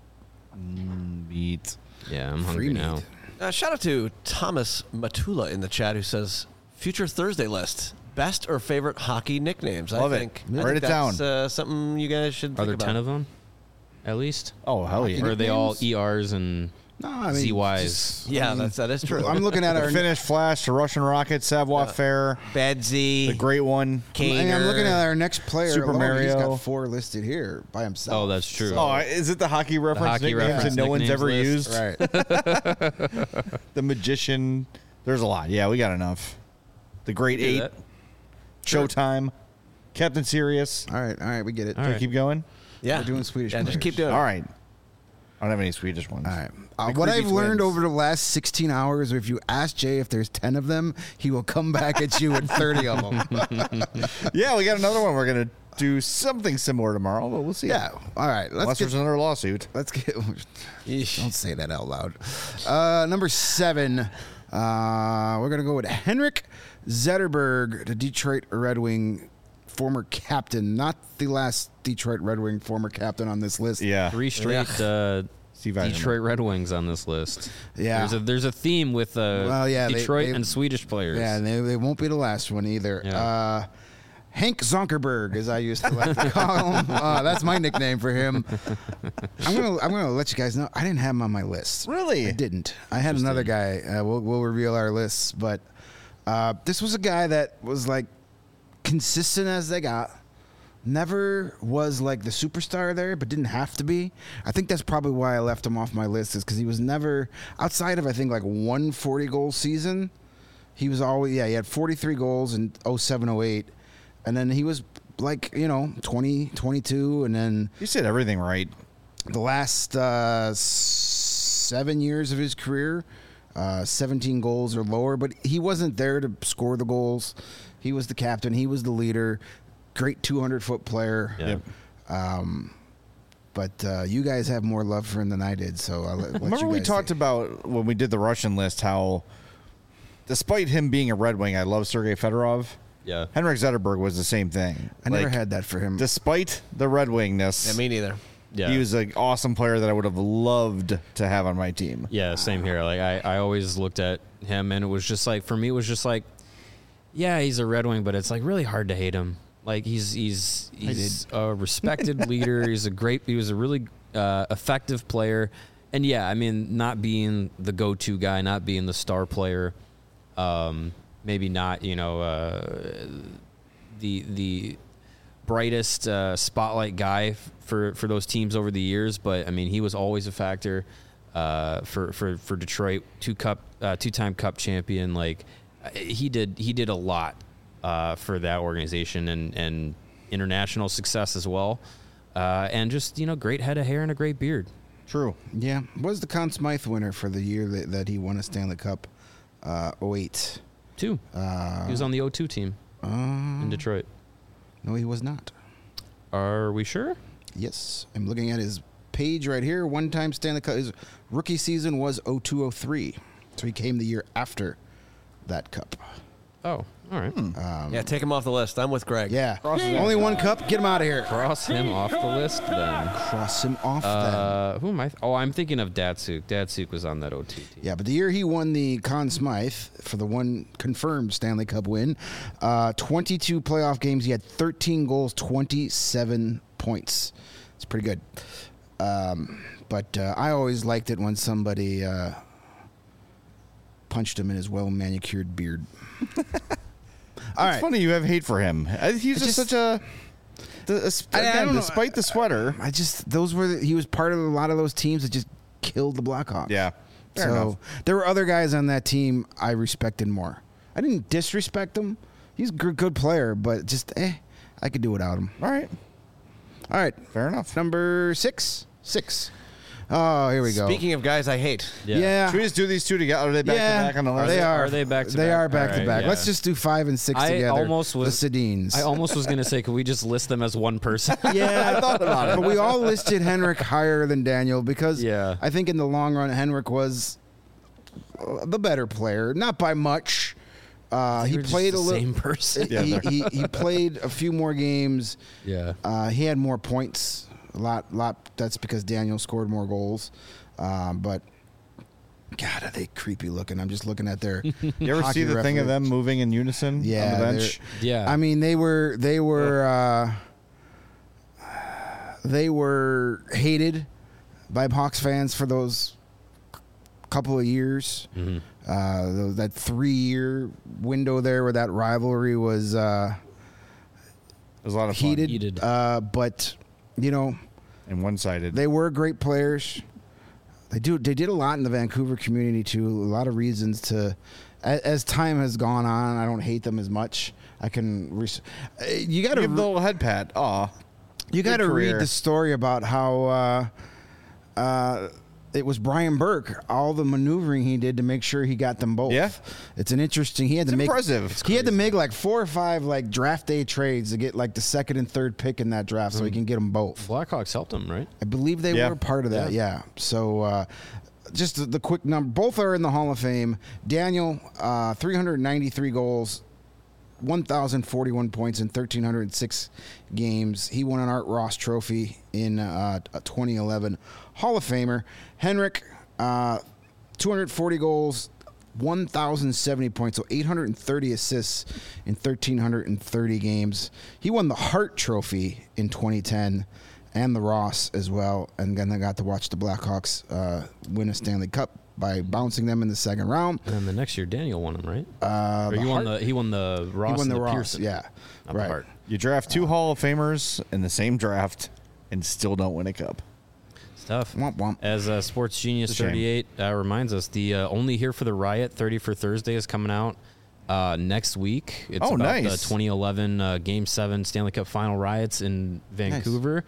Meat. Yeah, I'm Free hungry meat. now. Uh, shout out to Thomas Matula in the chat who says, future Thursday list, best or favorite hockey nicknames. Love I it. think, Write I think it that's, down. Uh, something you guys should Are think there about. ten of them? At least? Oh, hell yeah. Or are they all nicknames? E Rs and No, I mean, Z Ys? just- I Yeah, mean, that's, that is true. I'm looking at The our. Finnish Flash, the Russian Rocket, Savoir Faire, Bad Z. the Great One. I mean, I'm looking at our next player. Super alone, He's Mario. got four listed here by himself. Oh, that's true. Oh, is it the hockey reference hockey nicknames reference that no one's nicknames ever list? used? Right. The Magician. There's a lot. Yeah, we got enough. The Great Do Eight. that. Showtime. Captain Sirius. all right. All right. We get it. All Can we right. keep going? yeah. We're doing Swedish Yeah, just players. keep doing it. All right. I don't have any Swedish ones. All right. Uh, The what creepy I've learned twins. over the last sixteen hours, if you ask Jay if there's ten of them, he will come back at you with thirty of them. Yeah, we got another one. We're going to do something similar tomorrow, but we'll see. Yeah. All right. Let's Unless get. there's another lawsuit. Let's get. Yeesh. Don't say that out loud. Uh, number seven. Uh, we're gonna go with Henrik Zetterberg, the Detroit Red Wing former captain, not the last Detroit Red Wing former captain on this list. Yeah. Three straight uh, Steve Eisenman. Detroit Red Wings on this list. Yeah. There's a, there's a theme with uh, Well, yeah, they- Detroit they- and Swedish players. Yeah, and they, they won't be the last one either. Yeah. Uh, Hank Zonkerberg, as I used to like to call him. Uh, that's my nickname for him. I'm gonna I'm gonna let you guys know I didn't have him on my list. Really? I didn't. I had another guy. Uh, we'll we'll reveal our lists, but uh, this was a guy that was like consistent as they got. Never was like the superstar there, but didn't have to be. I think that's probably why I left him off my list, is because he was never outside of I think like one forty goal season. He was always yeah he had forty-three goals in oh seven oh eight, and then he was like you know twenty, twenty-two, and then You said everything right. the last uh, seven years of his career, uh, seventeen goals or lower. But he wasn't there to score the goals. He was the captain. He was the leader. Great two hundred foot player. Yeah. Yep. Um, but uh, you guys have more love for him than I did, so I'll let, let Remember you we guys talked say. about when we did the Russian list how, despite him being a Red Wing, I love Sergei Fedorov. Yeah. Henrik Zetterberg was the same thing. I never Like, had that for him. Despite the Red Wingness, Yeah, me neither. Yeah. he was an awesome player that I would have loved to have on my team. Yeah, same here. Like I, I always looked at him and it was just like for me it was just like yeah, he's a Red Wing, but it's like really hard to hate him. Like he's he's he's a respected leader. He's a great he was a really uh, effective player. And yeah, I mean not being the go-to guy, not being the star player, um, maybe not, you know, uh, the the brightest uh, spotlight guy f- for for those teams over the years, but I mean he was always a factor uh, for for for Detroit, two cup uh, two time Cup champion. Like he did he did a lot uh, for that organization and and international success as well, uh, and just you know great head of hair and a great beard. True. Yeah, was the Conn Smythe winner for the year that, that he won a Stanley Cup, uh, oh eight. Two. Uh, He was on the oh two team in Detroit. No, he was not. Are we sure? Yes, I'm looking at his page right here. One-time Stanley Cup. His rookie season was oh two oh three, so he came the year after that cup. Oh, all right. Yeah, take him off the list. I'm with Greg. Yeah, only one cup. Get him out of here. Cross him off the list then. Cross him off. then. Uh, who am I? Oh, I'm thinking of Datsuk. Datsuk was on that O T team. Yeah, but the year he won the Conn Smythe for the one confirmed Stanley Cup win, uh, twenty-two playoff games. He had thirteen goals, twenty-seven points. It's pretty good. Um, but uh, I always liked it when somebody uh, punched him in his well manicured beard. All It's right. funny you have hate for him. Uh, He's just, just- such a. The, I- I again, don't know. despite the sweater. I just those were the, he was part of a lot of those teams that just killed the Blackhawks. Yeah. Fair so enough. there were other guys on that team I respected more. I didn't disrespect him. He's a good, good player, but just eh, I could do without him. All right. All right, Fair enough. number six, six. Oh, here we go. Speaking of guys I hate. Yeah. yeah. Should we just do these two together? Are they back yeah, to back on the list? they are. Are they back to They back? are back All to right, back. yeah. Let's just do five and six I together. almost was- the Sedins. I almost was gonna say, could we just list them as one person? yeah, I thought about it. But we all listed Henrik higher than Daniel because Yeah. I think in the long run, Henrik was uh, the better player, not by much. Uh, he They were just played the a little. same person. Yeah, he, they're- he, he played a few more games. Yeah. Uh, he had more points. A lot, lot. That's because Daniel scored more goals. Um, but God, are they creepy looking? I'm just looking at their. You ever hockey see the thing of reference. them moving in unison Yeah, on the they're- bench? Yeah. I mean, they were they were uh, they were hated by Hawks fans for those couple of years. Mhm. Uh, th- that three year window there where that rivalry was uh, It was a lot of fun. heated. Heated. Uh, but you know, and one-sided. they were great players. They do. They did a lot in the Vancouver community too. A lot of reasons to. As, as time has gone on, I don't hate them as much. I can. Res- uh, you got to. Give the little head pat. Aw. You got to Good read career. the story about how uh, uh, it was Brian Burke, all the maneuvering he did to make sure he got them both. Yeah. It's an interesting. He had It's to make impressive. It's he had to make like four or five like draft day trades to get like the second and third pick in that draft, so he can get them both. Blackhawks helped him, right? I believe they Yeah. were part of that. Yeah. So. Uh, just the, the quick number. Both are in the Hall of Fame. Daniel, uh, three hundred ninety-three goals, one thousand forty-one points in one thousand three hundred six games. He won an Art Ross Trophy in uh, twenty eleven. Hall of Famer. Henrik, uh, two hundred forty goals, one thousand seventy points, so eight hundred thirty assists in one thousand three hundred thirty games. He won the Hart Trophy in twenty ten. And the Ross as well, and then I got to watch the Blackhawks uh, win a Stanley Cup by bouncing them in the second round. And then the next year, Daniel won him, right? Uh, or the you won Hart- the he won the Ross he won and the, the Ross, Pearson. yeah, Not the right. Hart. You draft two Hall of Famers in the same draft and still don't win a cup. It's tough. Womp womp. As uh, Sports Genius It's a shame. thirty-eight uh, reminds us, the uh, Only Here for the Riot thirty for Thursday is coming out uh, next week. It's Oh, about nice. the twenty eleven uh, Game seven Stanley Cup Final riots in Vancouver.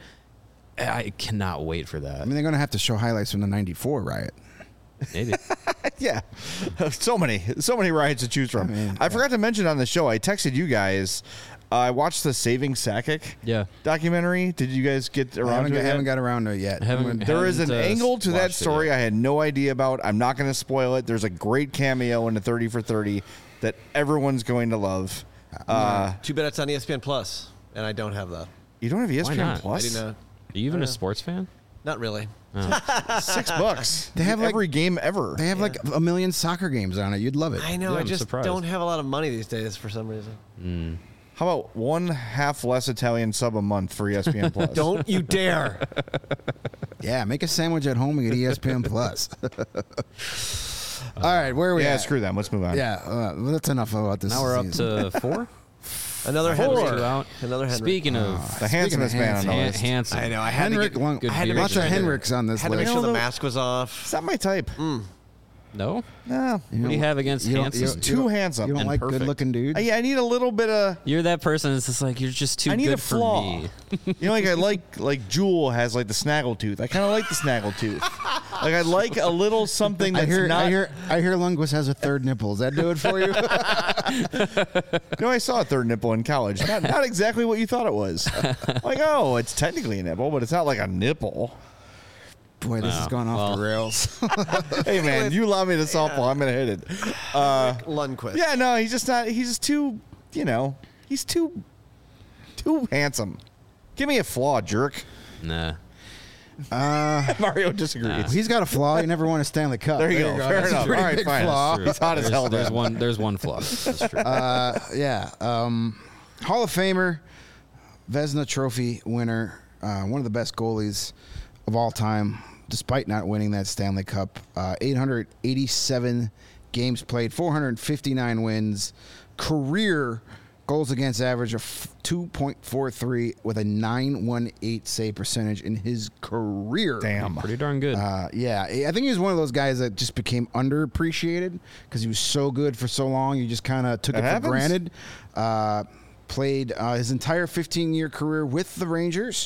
I cannot wait for I that. mean, they're going to have to show highlights from the ninety-four riot. Maybe. Yeah, so many, so many riots to choose from. I mean, I forgot to mention on the show. I texted you guys. Uh, I watched the Saving Sakic Yeah. documentary. Did you guys get I around haven't, to got, it? yet? haven't got around to it yet. I haven't- I'm gonna- There is an haven't, uh, angle to that watched it story yet. I had no idea about. I'm not going to spoil it. There's a great cameo in the thirty for thirty that everyone's going to love. Uh, Too bad it's on E S P N Plus, and I don't have that. you don't have E S P N not? Plus? I do not. Are you even a sports fan? Not really. Six bucks. They have, like- every game ever. They have like a million soccer games on it. You'd love it. I know. Yeah, I I'm just surprised. don't have a lot of money these days for some reason. How about one half less Italian sub a month for E S P N Plus? Don't you dare! Yeah, make a sandwich at home and get E S P N Plus. All right, where are we Yeah, at? screw them. Let's move on. Yeah, uh, well, that's enough about this. Now we're up season. to four. Another Four. Henry. Two out. Another Henry. Speaking of The handsomest man on the Han- list. handsome, I know. I had Henrik, to get, Lund- good I had to beard. make lots sure of the- Henriks on this Had to make list. sure the No, mask was off. It's not my type. no. No. What do you have against you don't- handsome? you It's don't- too handsome. You don't and like perfect. good-looking dudes? Uh, yeah, I need a little bit of. You're that person that's just like you're just too I need good a for flaw. me. You know, like I like like Jewel has like the snaggle tooth. I kind of like the snaggle tooth. Like I like a little something I that's hear, not. I hear, I hear. Lundqvist has a third nipple. Does that do it for you? You know, I saw a third nipple in college. Not, not exactly what you thought it was. Like, oh, it's technically a nipple, but it's not like a nipple. Boy, this has Wow. gone off Well. the rails. Hey, man, you allow me to softball. I'm gonna hit it. Uh, Lundqvist. yeah, no, he's just not. He's just too. You know, he's too, too handsome. Give me a flaw, jerk. Nah. Mario disagrees. Nah. He's got a flaw. He never won a Stanley Cup. There you go. Fair That's a enough. pretty All right, big fine. flaw. True. He's hot as There's- hell. There's then. one. There's one flaw. That's true. Uh, yeah. Um, Hall of Famer, Vezina Trophy winner, uh, one of the best goalies of all time, despite not winning that Stanley Cup. Uh, eight hundred eighty-seven games played, four hundred fifty-nine wins, career goals against average of two point four three with a nine one eight save percentage in his career. Damn. Pretty darn good. Uh, yeah, I think he was one of those guys that just became underappreciated because he was so good for so long. You just kind of took That it happens. for granted. Uh, played uh, his entire fifteen-year career with the Rangers.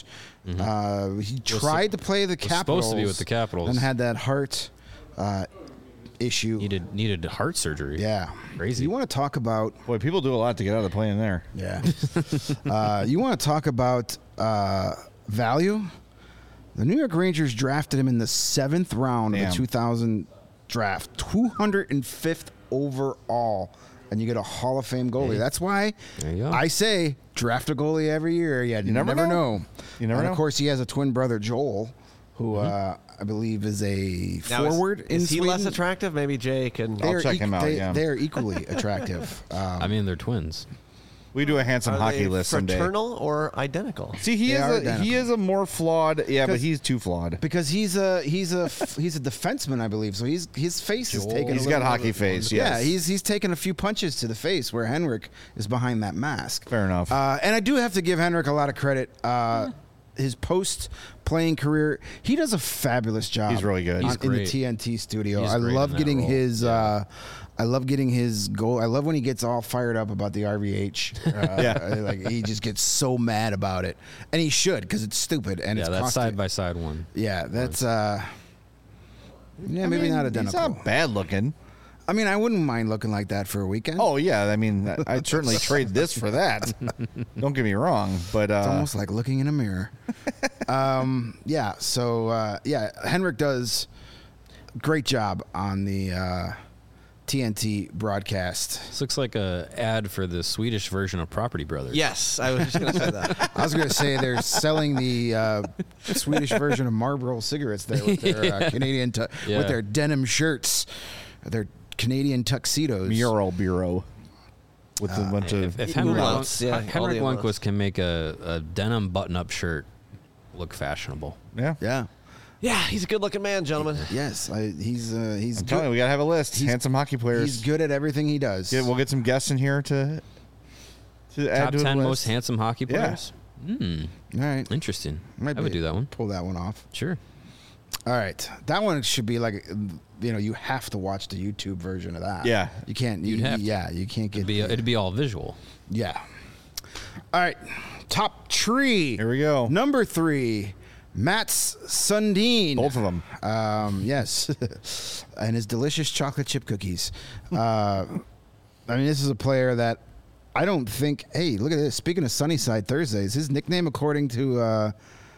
Mhm. Uh, he tried to play the was Capitals. supposed to be with the Capitals. And had that heart uh, issue. Needed needed heart surgery. Yeah. Crazy. You want to talk about Boy, people do a lot to get out of the plane there. yeah. uh, you want to talk about uh, value? The New York Rangers drafted him in the seventh round of Damn. the two thousand draft, two hundred fifth overall, and you get a Hall of Fame goalie. Hey. That's why There you go. I say draft a goalie every year. You, You never know. You never and know. of course, he has a twin brother, Joel, who uh, I believe is a Now, is- forward in is he Sweden. less attractive? Maybe Jay can. I'll They're check him out, They, yeah. They're equally attractive. Um, I mean, they're twins. We do a handsome Are hockey they list someday. fraternal or identical? See, he They is are a, identical. he is a more flawed. Yeah, but 'Cause- he's too flawed. because he's a he's a he's a defenseman, I believe. So he's his face is Joel. taken. He's a got little hockey bit- face. Yeah, Yes. he's he's taken a few punches to the face where Henrik is behind that mask. Fair enough. Uh, and I do have to give Henrik a lot of credit. Uh, his post playing career, he does a fabulous job. He's really good. on- He's in the great. T N T studio. He's I great love in that getting role. his. Yeah. Uh, I love getting his goal. I love when he gets all fired up about the R V H. Uh, Yeah. like he just gets so mad about it, and he should because it's stupid and Yeah, it's that's costing- side by side one. Yeah, that's uh yeah, I maybe mean, not He's identical. not bad looking. I mean, I wouldn't mind looking like that for a weekend. Oh yeah, I mean, I'd certainly trade this for that. Don't get me wrong, but uh, It's almost like looking in a mirror. um, yeah, so uh, yeah, Henrik does a great job on the uh, T N T broadcast. This looks like a ad for the Swedish version of Property Brothers. Yes, I was just going to say that. I was going to say they're selling the uh, Swedish version of Marlboro cigarettes there with their uh, Canadian tu- Yeah. with their denim shirts, their Canadian tuxedos. mural bureau with a bunch of. If, if Ooh, Henrik, lots, Lund- yeah, all Henrik the Lundqvist amounts. can make a, a denim button-up shirt look fashionable. yeah, Yeah. Yeah, he's a good-looking man, gentlemen. Yes, I, he's uh, he's I'm good. telling you, we gotta have a list. He's- Handsome hockey players. He's good at everything he does. Yeah, we'll get some guests in here to to add Top to the ten list. most handsome hockey Yeah. players? Hmm, All right, interesting. Might I would be- do that one. pull that one off. Sure. All right, that one should be like, you know, you have to watch the YouTube version of that. Yeah. you can't. You, You'd have to. yeah, you can't get. It'd be, it'd be all visual. yeah. All right, top tree. Here we go. Number three, Mats Sundin. Both of them. Um, yes, and his delicious chocolate chip cookies. Uh, I mean, this is a player that I don't think. Hey, look at this. Speaking of Sunnyside Thursdays, his nickname, according to uh,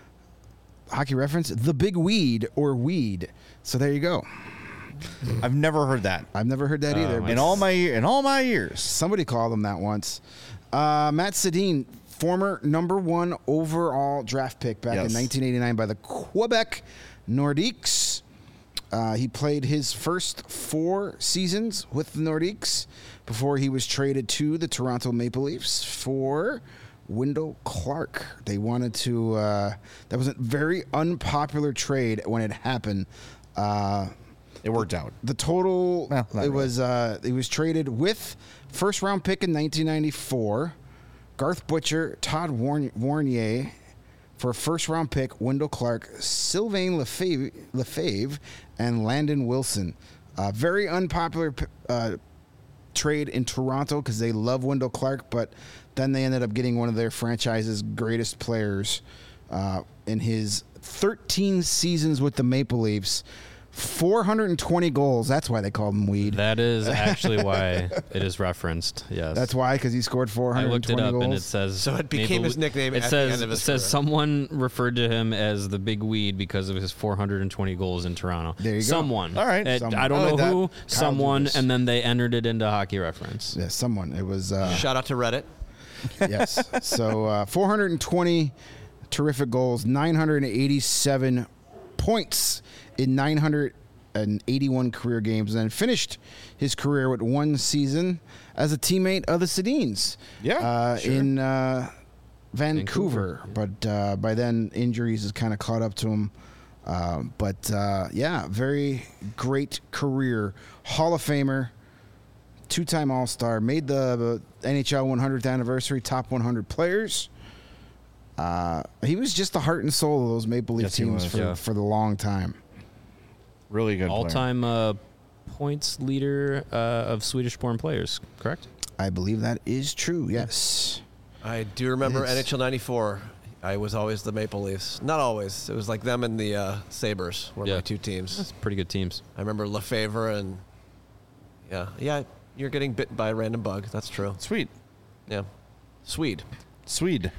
Hockey Reference, the Big Weed or Weed. So there you go. I've never heard that I've never heard that Oh, either. my but in all my in all my years. somebody called him that once. Uh, Matt Sedin, former number one overall draft pick back Yes. in nineteen eighty-nine by the Quebec Nordiques. Uh, he played his first four seasons with the Nordiques before he was traded to the Toronto Maple Leafs for Wendell Clark. They wanted to. Uh, that was a very unpopular trade when it happened. Uh, It worked out. the total Well, not it really. was uh, it was traded with first round pick in nineteen ninety-four, Garth Butcher, Todd Warn- Warnier for a first round pick, Wendell Clark, Sylvain Lefebvre, Lefebvre and Landon Wilson. Uh, very unpopular p- uh, trade in Toronto because they love Wendell Clark, but then they ended up getting one of their franchise's greatest players uh, in his thirteen seasons with the Maple Leafs. four hundred twenty goals. That's why they called him Weed. That is actually why it is referenced. Yes. That's why, because he scored four I hundred looked twenty it up goals. and it says So it became his nickname It at the says end of his it says career. someone referred to him as the Big Weed because of his four hundred twenty goals in Toronto. There you go. Someone. All right. It- Someone. I I don't like know that. who. Someone, Dubas. and then they entered it into Hockey Reference. yeah, someone. It was uh, Shout out to Reddit. yes. So uh, four hundred twenty terrific goals, nine hundred eighty-seven points in nine hundred eighty-one career games, and then finished his career with one season as a teammate of the Sedins. Yeah, uh, sure. in uh, Vancouver, but uh, by then injuries has kind of caught up to him. Uh, but uh, yeah, very great career, Hall of Famer, two-time All-Star, made the N H L one hundredth anniversary top one hundred players. Uh, he was just the heart and soul of those Maple Leaf Yes, he teams was, for, yeah. for the long time. Really good. player. All-time uh, points leader uh, of Swedish-born players. Correct. I believe that is true. Yes. I do remember Yes. N H L ninety-four. I was always the Maple Leafs. Not always. It was like them and the uh, Sabres were Yeah. my two teams. That's pretty good teams. I remember Lefevre and yeah, yeah. You're getting bit by a random bug. That's true. Sweet. Yeah, Swede. Swede.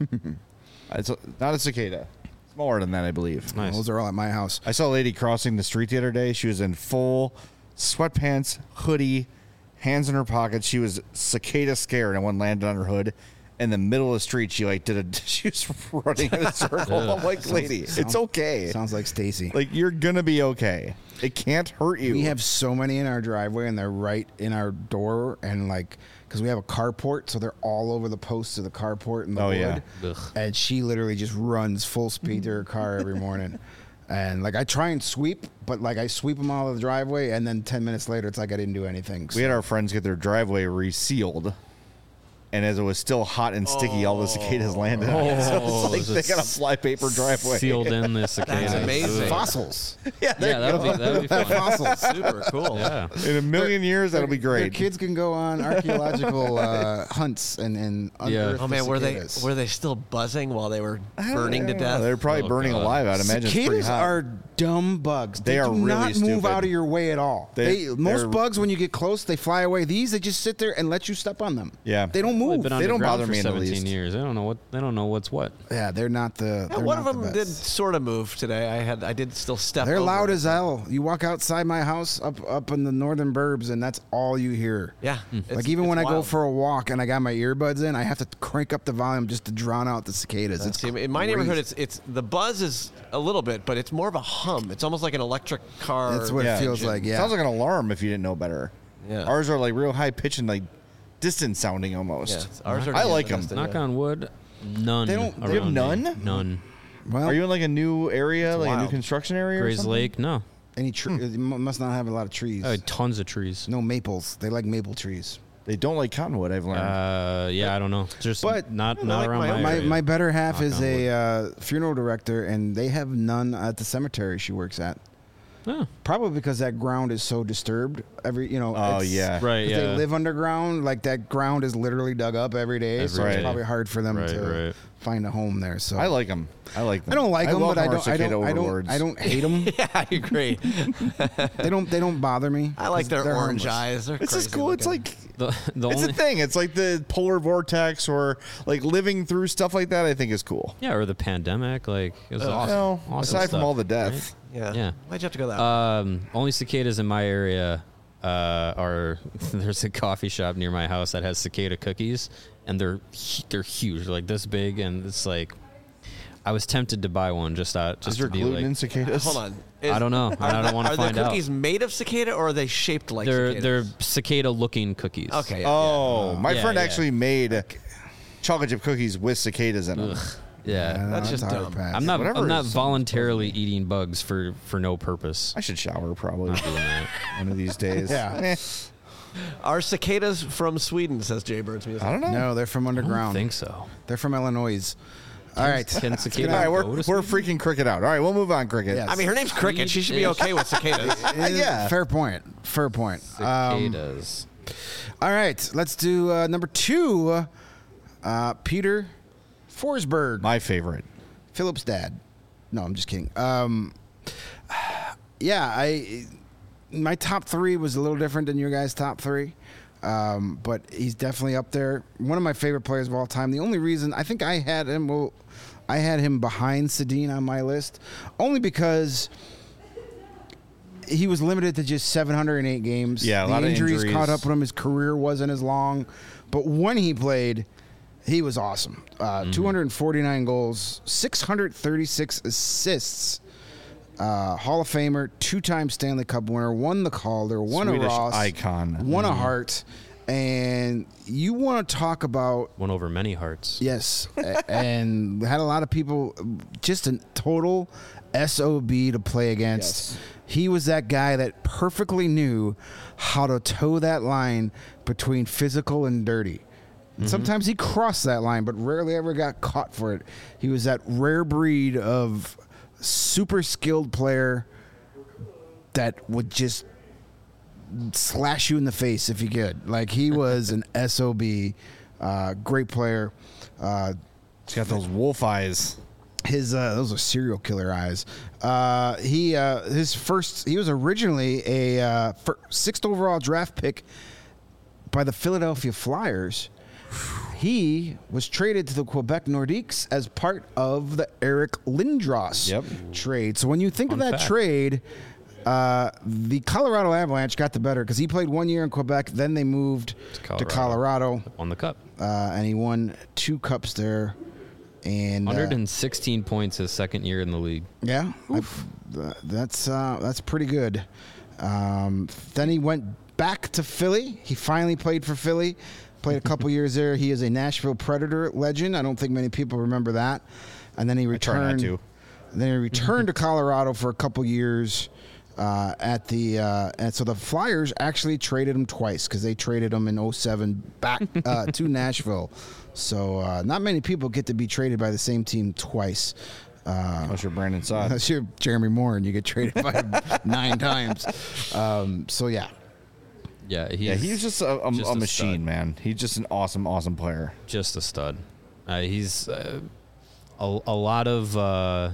It's a, not a cicada. Smaller than that, I believe. Nice. Those are all at my house. I saw a lady crossing the street the other day. She was in full sweatpants, hoodie, hands in her pockets. She was cicada scared, and one landed on her hood. In the middle of the street, she like did a. She was running in a circle. I'm like, lady, it's Sounds- okay. Sounds like Stacy. Like you're gonna be okay. It can't hurt you. We have so many in our driveway, and they're right in our door, and like, because we have a carport, so they're all over the posts of the carport and the Oh, wood. yeah. Ugh. And she literally just runs full speed to her car every morning. And like, I try and sweep, but like, I sweep them out of the driveway, and then ten minutes later, it's like I didn't do anything. We had our friends get their driveway resealed, and as it was still hot and sticky, all the cicadas landed. on it. So Oh, it's like they got a flypaper driveway. Sealed in the cicadas. That's amazing. Ugh. fossils. Yeah, there Yeah, you that'd go. be, that'd be fun. fossils. Super cool. Yeah. In a million years, that'll be Their great. kids can go on archaeological uh, hunts and, and Yeah. unearth Oh the man, were they cicadas. were they still buzzing while they were burning to death? They're probably Oh, burning God. alive. I'd imagine it's pretty Cicadas hot. are dumb bugs. They, They are do really not move stupid. out of your way at all. They- They, most they're- bugs, when you get close, they fly away. These, they just sit there and let you step on them. Yeah. They don't Well, move. they've been They don't underground bother for me in the seventeen least. years. They don't know what. They don't know what's what. yeah, they're not the. Yeah, They're one not of them the did best. sort of move today. I had I did still step. They're over loud it. as hell. You walk outside my house up up in the northern burbs, and that's all you hear. Yeah. it's- Like even it's when I go wild. for a walk and I got my earbuds in, I have to crank up the volume just to drown out the cicadas. It's See, in my crazy. neighborhood, it's it's the buzz is a little bit, but it's more of a hum. It's almost like an electric car. That's what Yeah. it feels engine. like. Yeah. Sounds like an alarm if you didn't know better. Yeah. Ours are like real high pitch and like distant sounding Yeah, almost. it's- ours are I like 'em. distant, Knock yeah. on wood. None. They don't- they have around me. none? None. well, Are you in like a new area, It's like a new wild. construction area? or Grays something? Lake. No. any tree? You must not have a lot of trees. Oh, tons of trees. No maples. They like maple trees. They don't like cottonwood. I've learned. Uh, yeah, I don't know. Just But- not I not like around my my own- My area. my better half Knock is on a uh, funeral director, and they have none at the cemetery she works at. Oh, Probably because that ground is so disturbed. Every you know. Oh, it's- yeah. right. 'cause Yeah. They live underground. Like that ground is literally dug up every day, Every so it's day. probably hard for them Right, to right. find a home there. So I like them. I like them. I don't like them, but welcome I our don't. I cicada don't. I don't. overlords. I don't hate them. Yeah, I agree. they don't. They don't bother me. I like 'cause their they're orange harmless. eyes. They're It's just crazy cool. It's looking. like the the it's only a thing. It's like the polar vortex or like living through stuff like that. I think is cool. yeah, or the pandemic. Like it was Ugh. awesome. Well, awesome aside from stuff, all the right? death, yeah. Yeah. Why'd you have to go that? way? Um, only cicadas in my area uh, are. There's a coffee shop near my house that has cicada cookies, and they're hu- they're huge, they're like this big, and it's like I was tempted to buy one just out just is there to be gluten like. in cicadas? Hold on. I don't know. I don't want to Are find the out. cookies made of cicada or are they shaped like They're cicadas? they're cicada looking cookies. Okay. Yeah, Oh, my Yeah, friend yeah. actually made chocolate chip cookies with cicadas in them. Ugh. Yeah. Yeah, That's no, just a hard dumb. pass. I'm not. Whatever I'm not is- voluntarily eating bugs for for no purpose. I should shower probably Not doing that. one of these days. Yeah. Eh, yeah. Are cicadas from Sweden? Says Jay Bird's music. I don't know. No, they're from I don't underground. think so. They're from Illinois. All right. Can cicadas All right, we're, go to we're Sweden? freaking cricket out. All right, we'll move on, cricket. Yes. I mean, her name's Cricket. She should be okay with cicadas. It is- Yeah. Fair point. Fair point. Um, Cicadas. all right. Let's do uh, number two. Uh, Peter Forsberg, My favorite. Philip's dad. No, I'm just kidding. Um, yeah, I my top three was a little different than your guys' top three. Um, but he's definitely up there. One of my favorite players of all time. The only reason I think I had him, well, I had him behind Sedin on my list, only because he was limited to just seven hundred eight games. Yeah, a the lot of injuries, injuries. caught up with him. His career wasn't as long, but when he played, he was awesome. Uh, Mm-hmm. two hundred forty-nine goals, six hundred thirty-six assists. Uh, Hall of Famer, two-time Stanley Cup winner, won the Calder, won Swedish a Ross, icon. won a Hart, and you want to talk about Won over many hearts. yes, a- and had a lot of people just a total S O B to play against. Yes. He was that guy that perfectly knew how to toe that line between physical and dirty. Sometimes he crossed that line, but rarely ever got caught for it. He was that rare breed of super skilled player that would just slash you in the face if he could. Like he was an S O B, uh, great player. Uh, He's got those wolf eyes. His uh, those are serial killer eyes. Uh, he uh, his first he was originally a uh, fir- sixth overall draft pick by the Philadelphia Flyers. He was traded to the Quebec Nordiques as part of the Eric Lindros Yep. trade. So when you think Fun of that fact. trade, uh, the Colorado Avalanche got the better because he played one year in Quebec. Then they moved to Colorado. Colorado, On the cup. uh, and he won two cups there. And uh, one hundred sixteen points his second year in the league. yeah, I, th- that's uh, that's pretty good. Um, then he went back to Philly. He finally played for Philly. Played a couple years there. He is a Nashville Predator legend. I don't think many people remember that. And then he try not returned. to. Then he returned to Colorado for a couple years. Uh, at the uh, and so the Flyers actually traded him twice because they traded him in oh seven back uh, to Nashville. So uh, not many people get to be traded by the same team twice. Uh, Unless you're Brandon Saad. Unless you're Jeremy Moore and you get traded by him nine times. Um, so yeah, Yeah, he's, Yeah, he's just a, a, just a a machine, stud. man. He's just an awesome, awesome player. just a stud. Uh, he's uh, a, a lot of uh,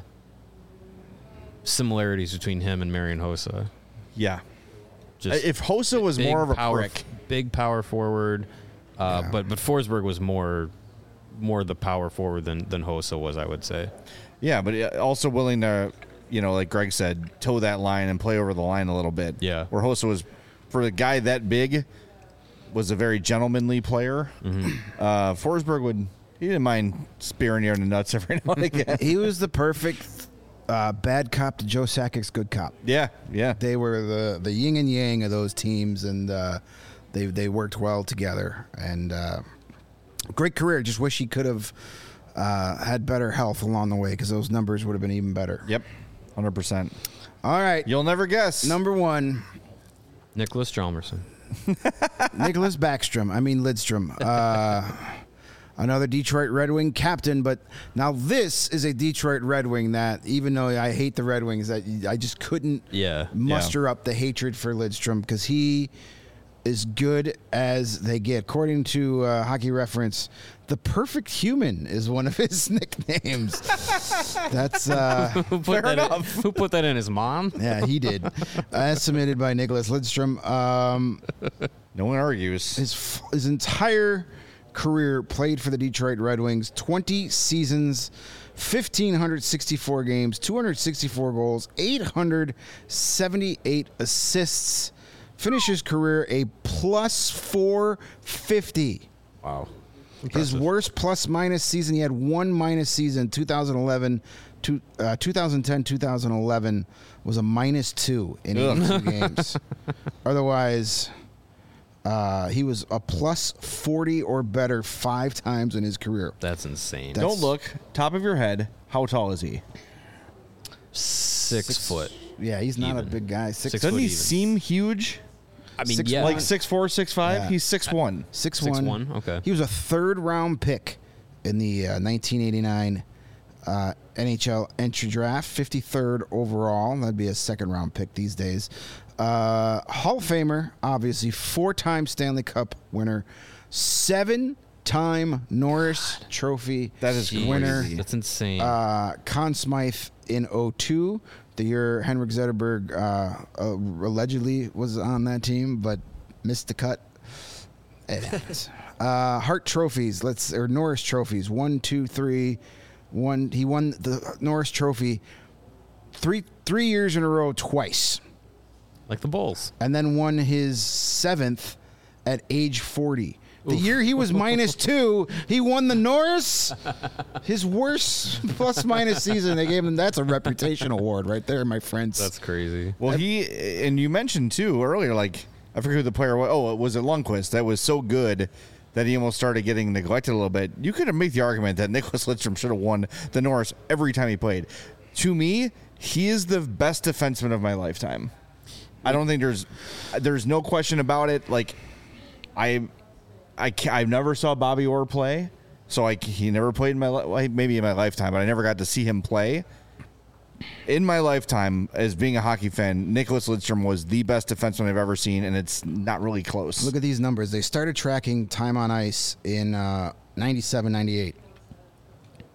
similarities between him and Marian Hossa. Yeah. Just If Hossa was big more of a power, prick, big power forward, uh, Yeah. but but Forsberg was more more the power forward than than Hossa was, I would say. yeah, but uh, also willing to, you know, like Greg said, toe that line and play over the line a little bit. Yeah. Where Hossa was, for a guy that big, was a very gentlemanly player. Mm-hmm. Uh, Forsberg would, he didn't mind spearing you in the nuts every now and again. he was the perfect uh, bad cop to Joe Sakic's good cop. yeah, yeah. They were the the yin and yang of those teams, and uh, they they worked well together. And uh, great career. Just wish he could have uh, had better health along the way because those numbers would have been even better. Yep, one hundred percent. All right, You'll never guess. number one. Nicholas Chalmerson. Nicholas Backstrom. I mean Lidstrom. Uh, another Detroit Red Wing captain, but now this is a Detroit Red Wing that, even though I hate the Red Wings, that I just couldn't Yeah. muster up the hatred for Lidstrom because he is good as they get. According to uh, Hockey Reference, the perfect human is one of his nicknames. That's uh, Who put Fair that in- enough. who put that in his mom? yeah, he did. As submitted by Nicholas Lidstrom. Um, No one argues. his f- his entire career played for the Detroit Red Wings, twenty seasons, one thousand five hundred sixty-four games, two hundred sixty-four goals, eight hundred seventy-eight assists. Finished his career a plus four fifty. Wow. His worst plus minus season, he had one minus season, two thousand eleven, two, uh, twenty ten, two thousand eleven was a minus two in eighty-two games. Otherwise, uh, he was a plus forty or better five times in his career. That's insane. That's- Don't look. Top of your head. How tall is he? Six, Six- foot. Yeah, he's not a Even. big guy. Six, Six Doesn't foot he even. seem huge? I mean, Six- yeah. Like six four, six five. Yeah. He's six one. six, Six one. one, okay. He was a third round pick in the uh, nineteen eighty-nine uh, N H L entry draft, fifty-third overall. That'd be a second round pick these days. Uh, Hall of Famer, obviously, four time Stanley Cup winner, seven time Norris Trophy That is Jeez, winner. That's insane. Uh, Conn Smythe in oh two, the year Henrik Zetterberg uh, uh, allegedly was on that team, but missed the cut. It happens. uh, Hart trophies, let's or Norris trophies. One, two, three. One. He won the Norris Trophy three three years in a row, twice, like the Bulls. and then won his seventh at age forty. The year he was minus two, he won the Norris. His worst plus minus season. They gave him that's a reputation award right there, my friends. That's crazy. Well, he and you mentioned too earlier, like I forget who the player was. Oh, it was it Lundqvist that was so good that he almost started getting neglected a little bit. You could have made the argument that Nicholas Lidstrom should have won the Norris every time he played. To me, he is the best defenseman of my lifetime. I don't think there's there's no question about it. Like I. I, ca- I never saw Bobby Orr play, so I, he never played in my li- well, maybe in my lifetime, but I never got to see him play. In my lifetime, as being a hockey fan, Nicholas Lidstrom was the best defenseman I've ever seen, and it's not really close. Look at these numbers. They started tracking time on ice in uh, ninety-seven, ninety-eight.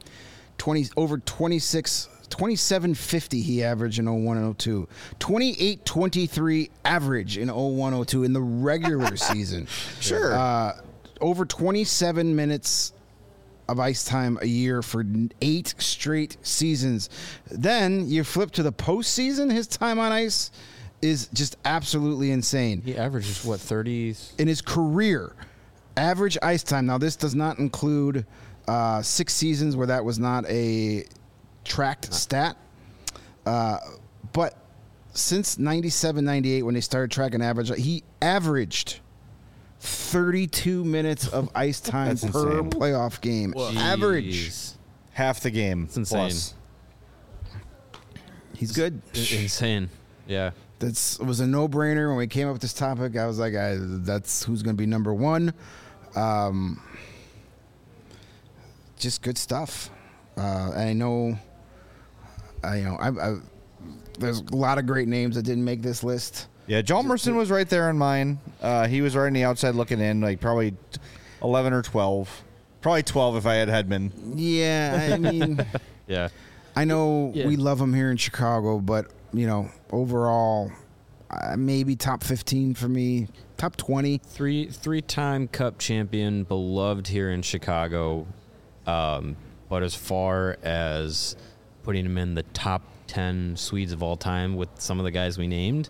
twenty over twenty-six, twenty-seven fifty he averaged in oh one and oh two. twenty-eight twenty-three average in oh one oh two in the regular season. Sure. Uh, over twenty-seven minutes of ice time a year for eight straight seasons. Then you flip to the postseason, his time on ice is just absolutely insane. He averages what thirty In his career, average ice time. Now, this does not include uh, six seasons where that was not a tracked stat. Uh, but since ninety-seven ninety-eight, when they started tracking average, he averaged thirty-two minutes of ice time That's per insane. playoff game. Average. Half the game. It's insane. Plus. He's good. Insane. Yeah. That's it was a no-brainer when we came up with this topic. I was like, I, that's who's going to be number one. Um, just good stuff. Uh, and I know, I you know, I, I, there's a lot of great names that didn't make this list. Yeah, Jalmerson was right there in mine. Uh, he was right on the outside looking in, like probably eleven or twelve. Probably twelve if I had Hedman. Yeah, I mean, Yeah. I know Yeah. we love him here in Chicago, but you know, overall, uh, maybe top fifteen for me, top twenty. Three three-time Cup champion, beloved here in Chicago. Um, but as far as putting him in the top ten Swedes of all time with some of the guys we named,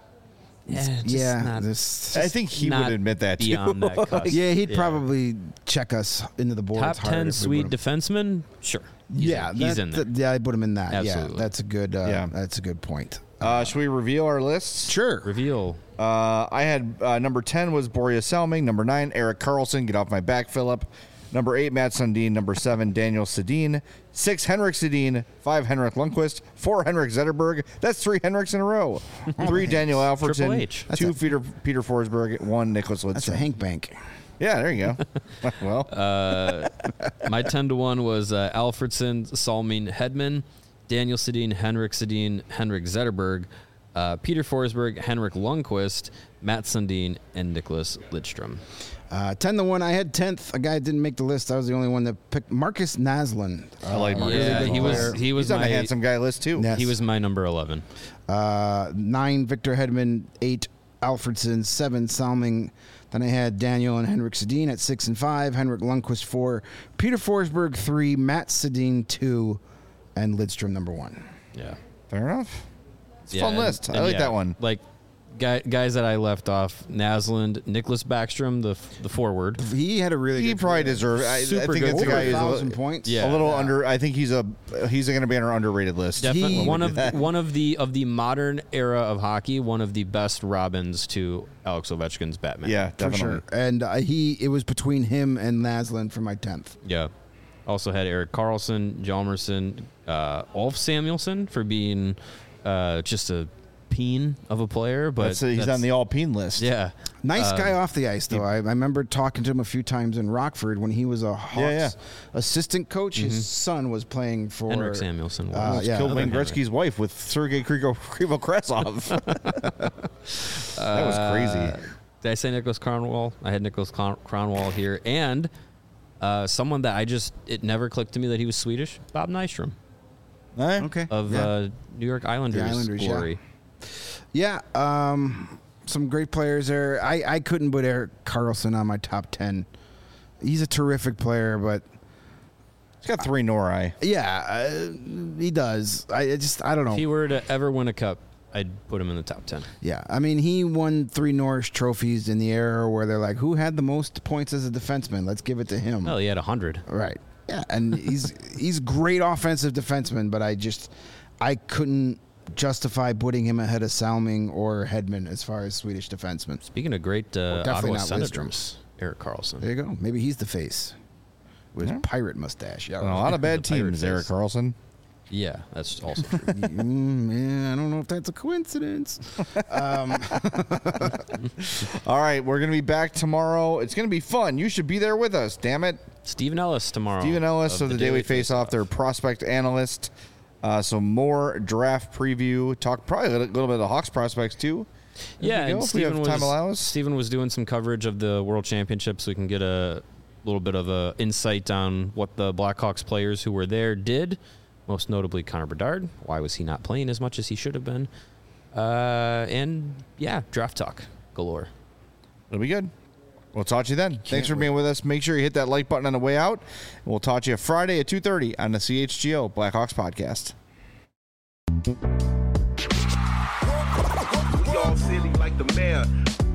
yeah, just yeah, not, this. I think he not would admit that too. beyond that cusp. Yeah, he'd probably check us into the board. top ten Swede defenseman. Sure. He's Yeah, in, he's that- in there. that- yeah, I put him in that. Absolutely. Yeah, that's a good. Uh, Yeah. that's a good point. Uh, should we reveal our lists? Sure. Reveal. Uh, I had uh, number ten was Boreas Selming. Number nine, Eric Carlson. Get off my back, Philip. Number eight, Matt Sundin. Number seven, Daniel Sedin. Six, Henrik Sedin. Five, Henrik Lundqvist. Four, Henrik Zetterberg. That's three Henriks in a row. Three, Daniel Triple Alfredson. H. Two, Peter Peter Forsberg. One, Nicholas That's a Lidstrom. Hank Bank. Yeah, there you go. Well, Uh, my ten to one was uh, Alfredson, Salmin Hedman, Daniel Sedin, Henrik Sedin, Henrik Zetterberg, uh, Peter Forsberg, Henrik Lundqvist, Matt Sundin, and Nicholas Lidstrom. Uh, ten to one. I had tenth. A guy that didn't make the list. I was the only one that picked Marcus Naslund. I like Marcus. Yeah, Really good he was player. he was He's on my a handsome guy list too. Yeah. he was my number eleven. Uh, nine, Victor Hedman. Eight, Alfredson. Seven, Salming. Then I had Daniel and Henrik Sedin at six and five. Henrik Lundqvist four. Peter Forsberg three. Matt Sedin two, and Lidstrom number one. Yeah, Fair enough. It's a yeah, fun and- list. I and like yeah, that one. Like guy, guys that I left off: Naslund, Nicholas Backstrom, the the forward. He had a really He good probably career. deserves. I, I Super think good it's a Over guy a who's a, thousand li- points. Yeah. a little Yeah. under. I think he's a he's going to be on our underrated list. Definitely He- one of that. one of the of the modern era of hockey. One of the best Robins to Alex Ovechkin's Batman. Yeah, For definitely. sure. And uh, he, it was between him and Naslund for my tenth. Yeah. Also had Eric Carlson, Hjalmarsson, uh, Ulf Samuelsson for being uh, just a peen of a player, but That's, uh, he's that's- on the Alpine list. yeah. Nice Um, guy off the ice, though. I, I remember talking to him a few times in Rockford when he was a Hawks Yeah, yeah. assistant coach. His son was playing for Henrik Samuelsson. Uh, was. Almost yeah. killed Wayne Another Gretzky's wife with Sergei Krivo Krasov. That was crazy. Uh, did I say Nicholas Cronwall? I had Nicholas Cron- Cronwall here, and uh, someone that I just it never clicked to me that he was Swedish. Bob Nystrom Eh? Okay. of yeah. uh, New York Islanders, Islanders, yeah. glory. yeah. Um, some great players there. I, I couldn't put Eric Carlson on my top ten. He's a terrific player, but He's got three Nori. yeah, uh, he does. I I just I don't know. If he were to ever win a cup, I'd put him in the top ten. Yeah, I mean, he won three Norris trophies in the era where they're like, who had the most points as a defenseman? Let's give it to him. Well, he had a hundred. Right. Yeah, and he's he's great offensive defenseman, but I just I couldn't justify putting him ahead of Salming or Hedman as far as Swedish defensemen. Speaking of great uh, definitely Ottawa not Senators, Eric Carlson. There you go. Maybe he's the face with Yeah. pirate mustache. Yeah. A lot of bad The pirate teams, Eric face. Carlson. Yeah, that's also true. mm, yeah, I don't know if that's a coincidence. Um, All right, we're going to be back tomorrow. It's going to be fun. You should be there with us, damn it. Stephen Ellis tomorrow. Stephen Ellis of the Daily Face-Off, their prospect analyst. Uh, so more draft preview. Talk probably a little, little bit of the Hawks prospects, too. Yeah, we go, and if we have Stephen time was allows. Stephen was doing some coverage of the World Championship, so we can get a little bit of a insight on what the Blackhawks players who were there did, most notably Connor Bedard. Why was he not playing as much as he should have been? Uh, and, yeah, draft talk galore. It'll be good. We'll talk to you then. Can't Thanks for being wait. with us. Make sure you hit that like button on the way out. And we'll talk to you Friday at two thirty on the C H G O Blackhawks podcast. We all silly like the mayor.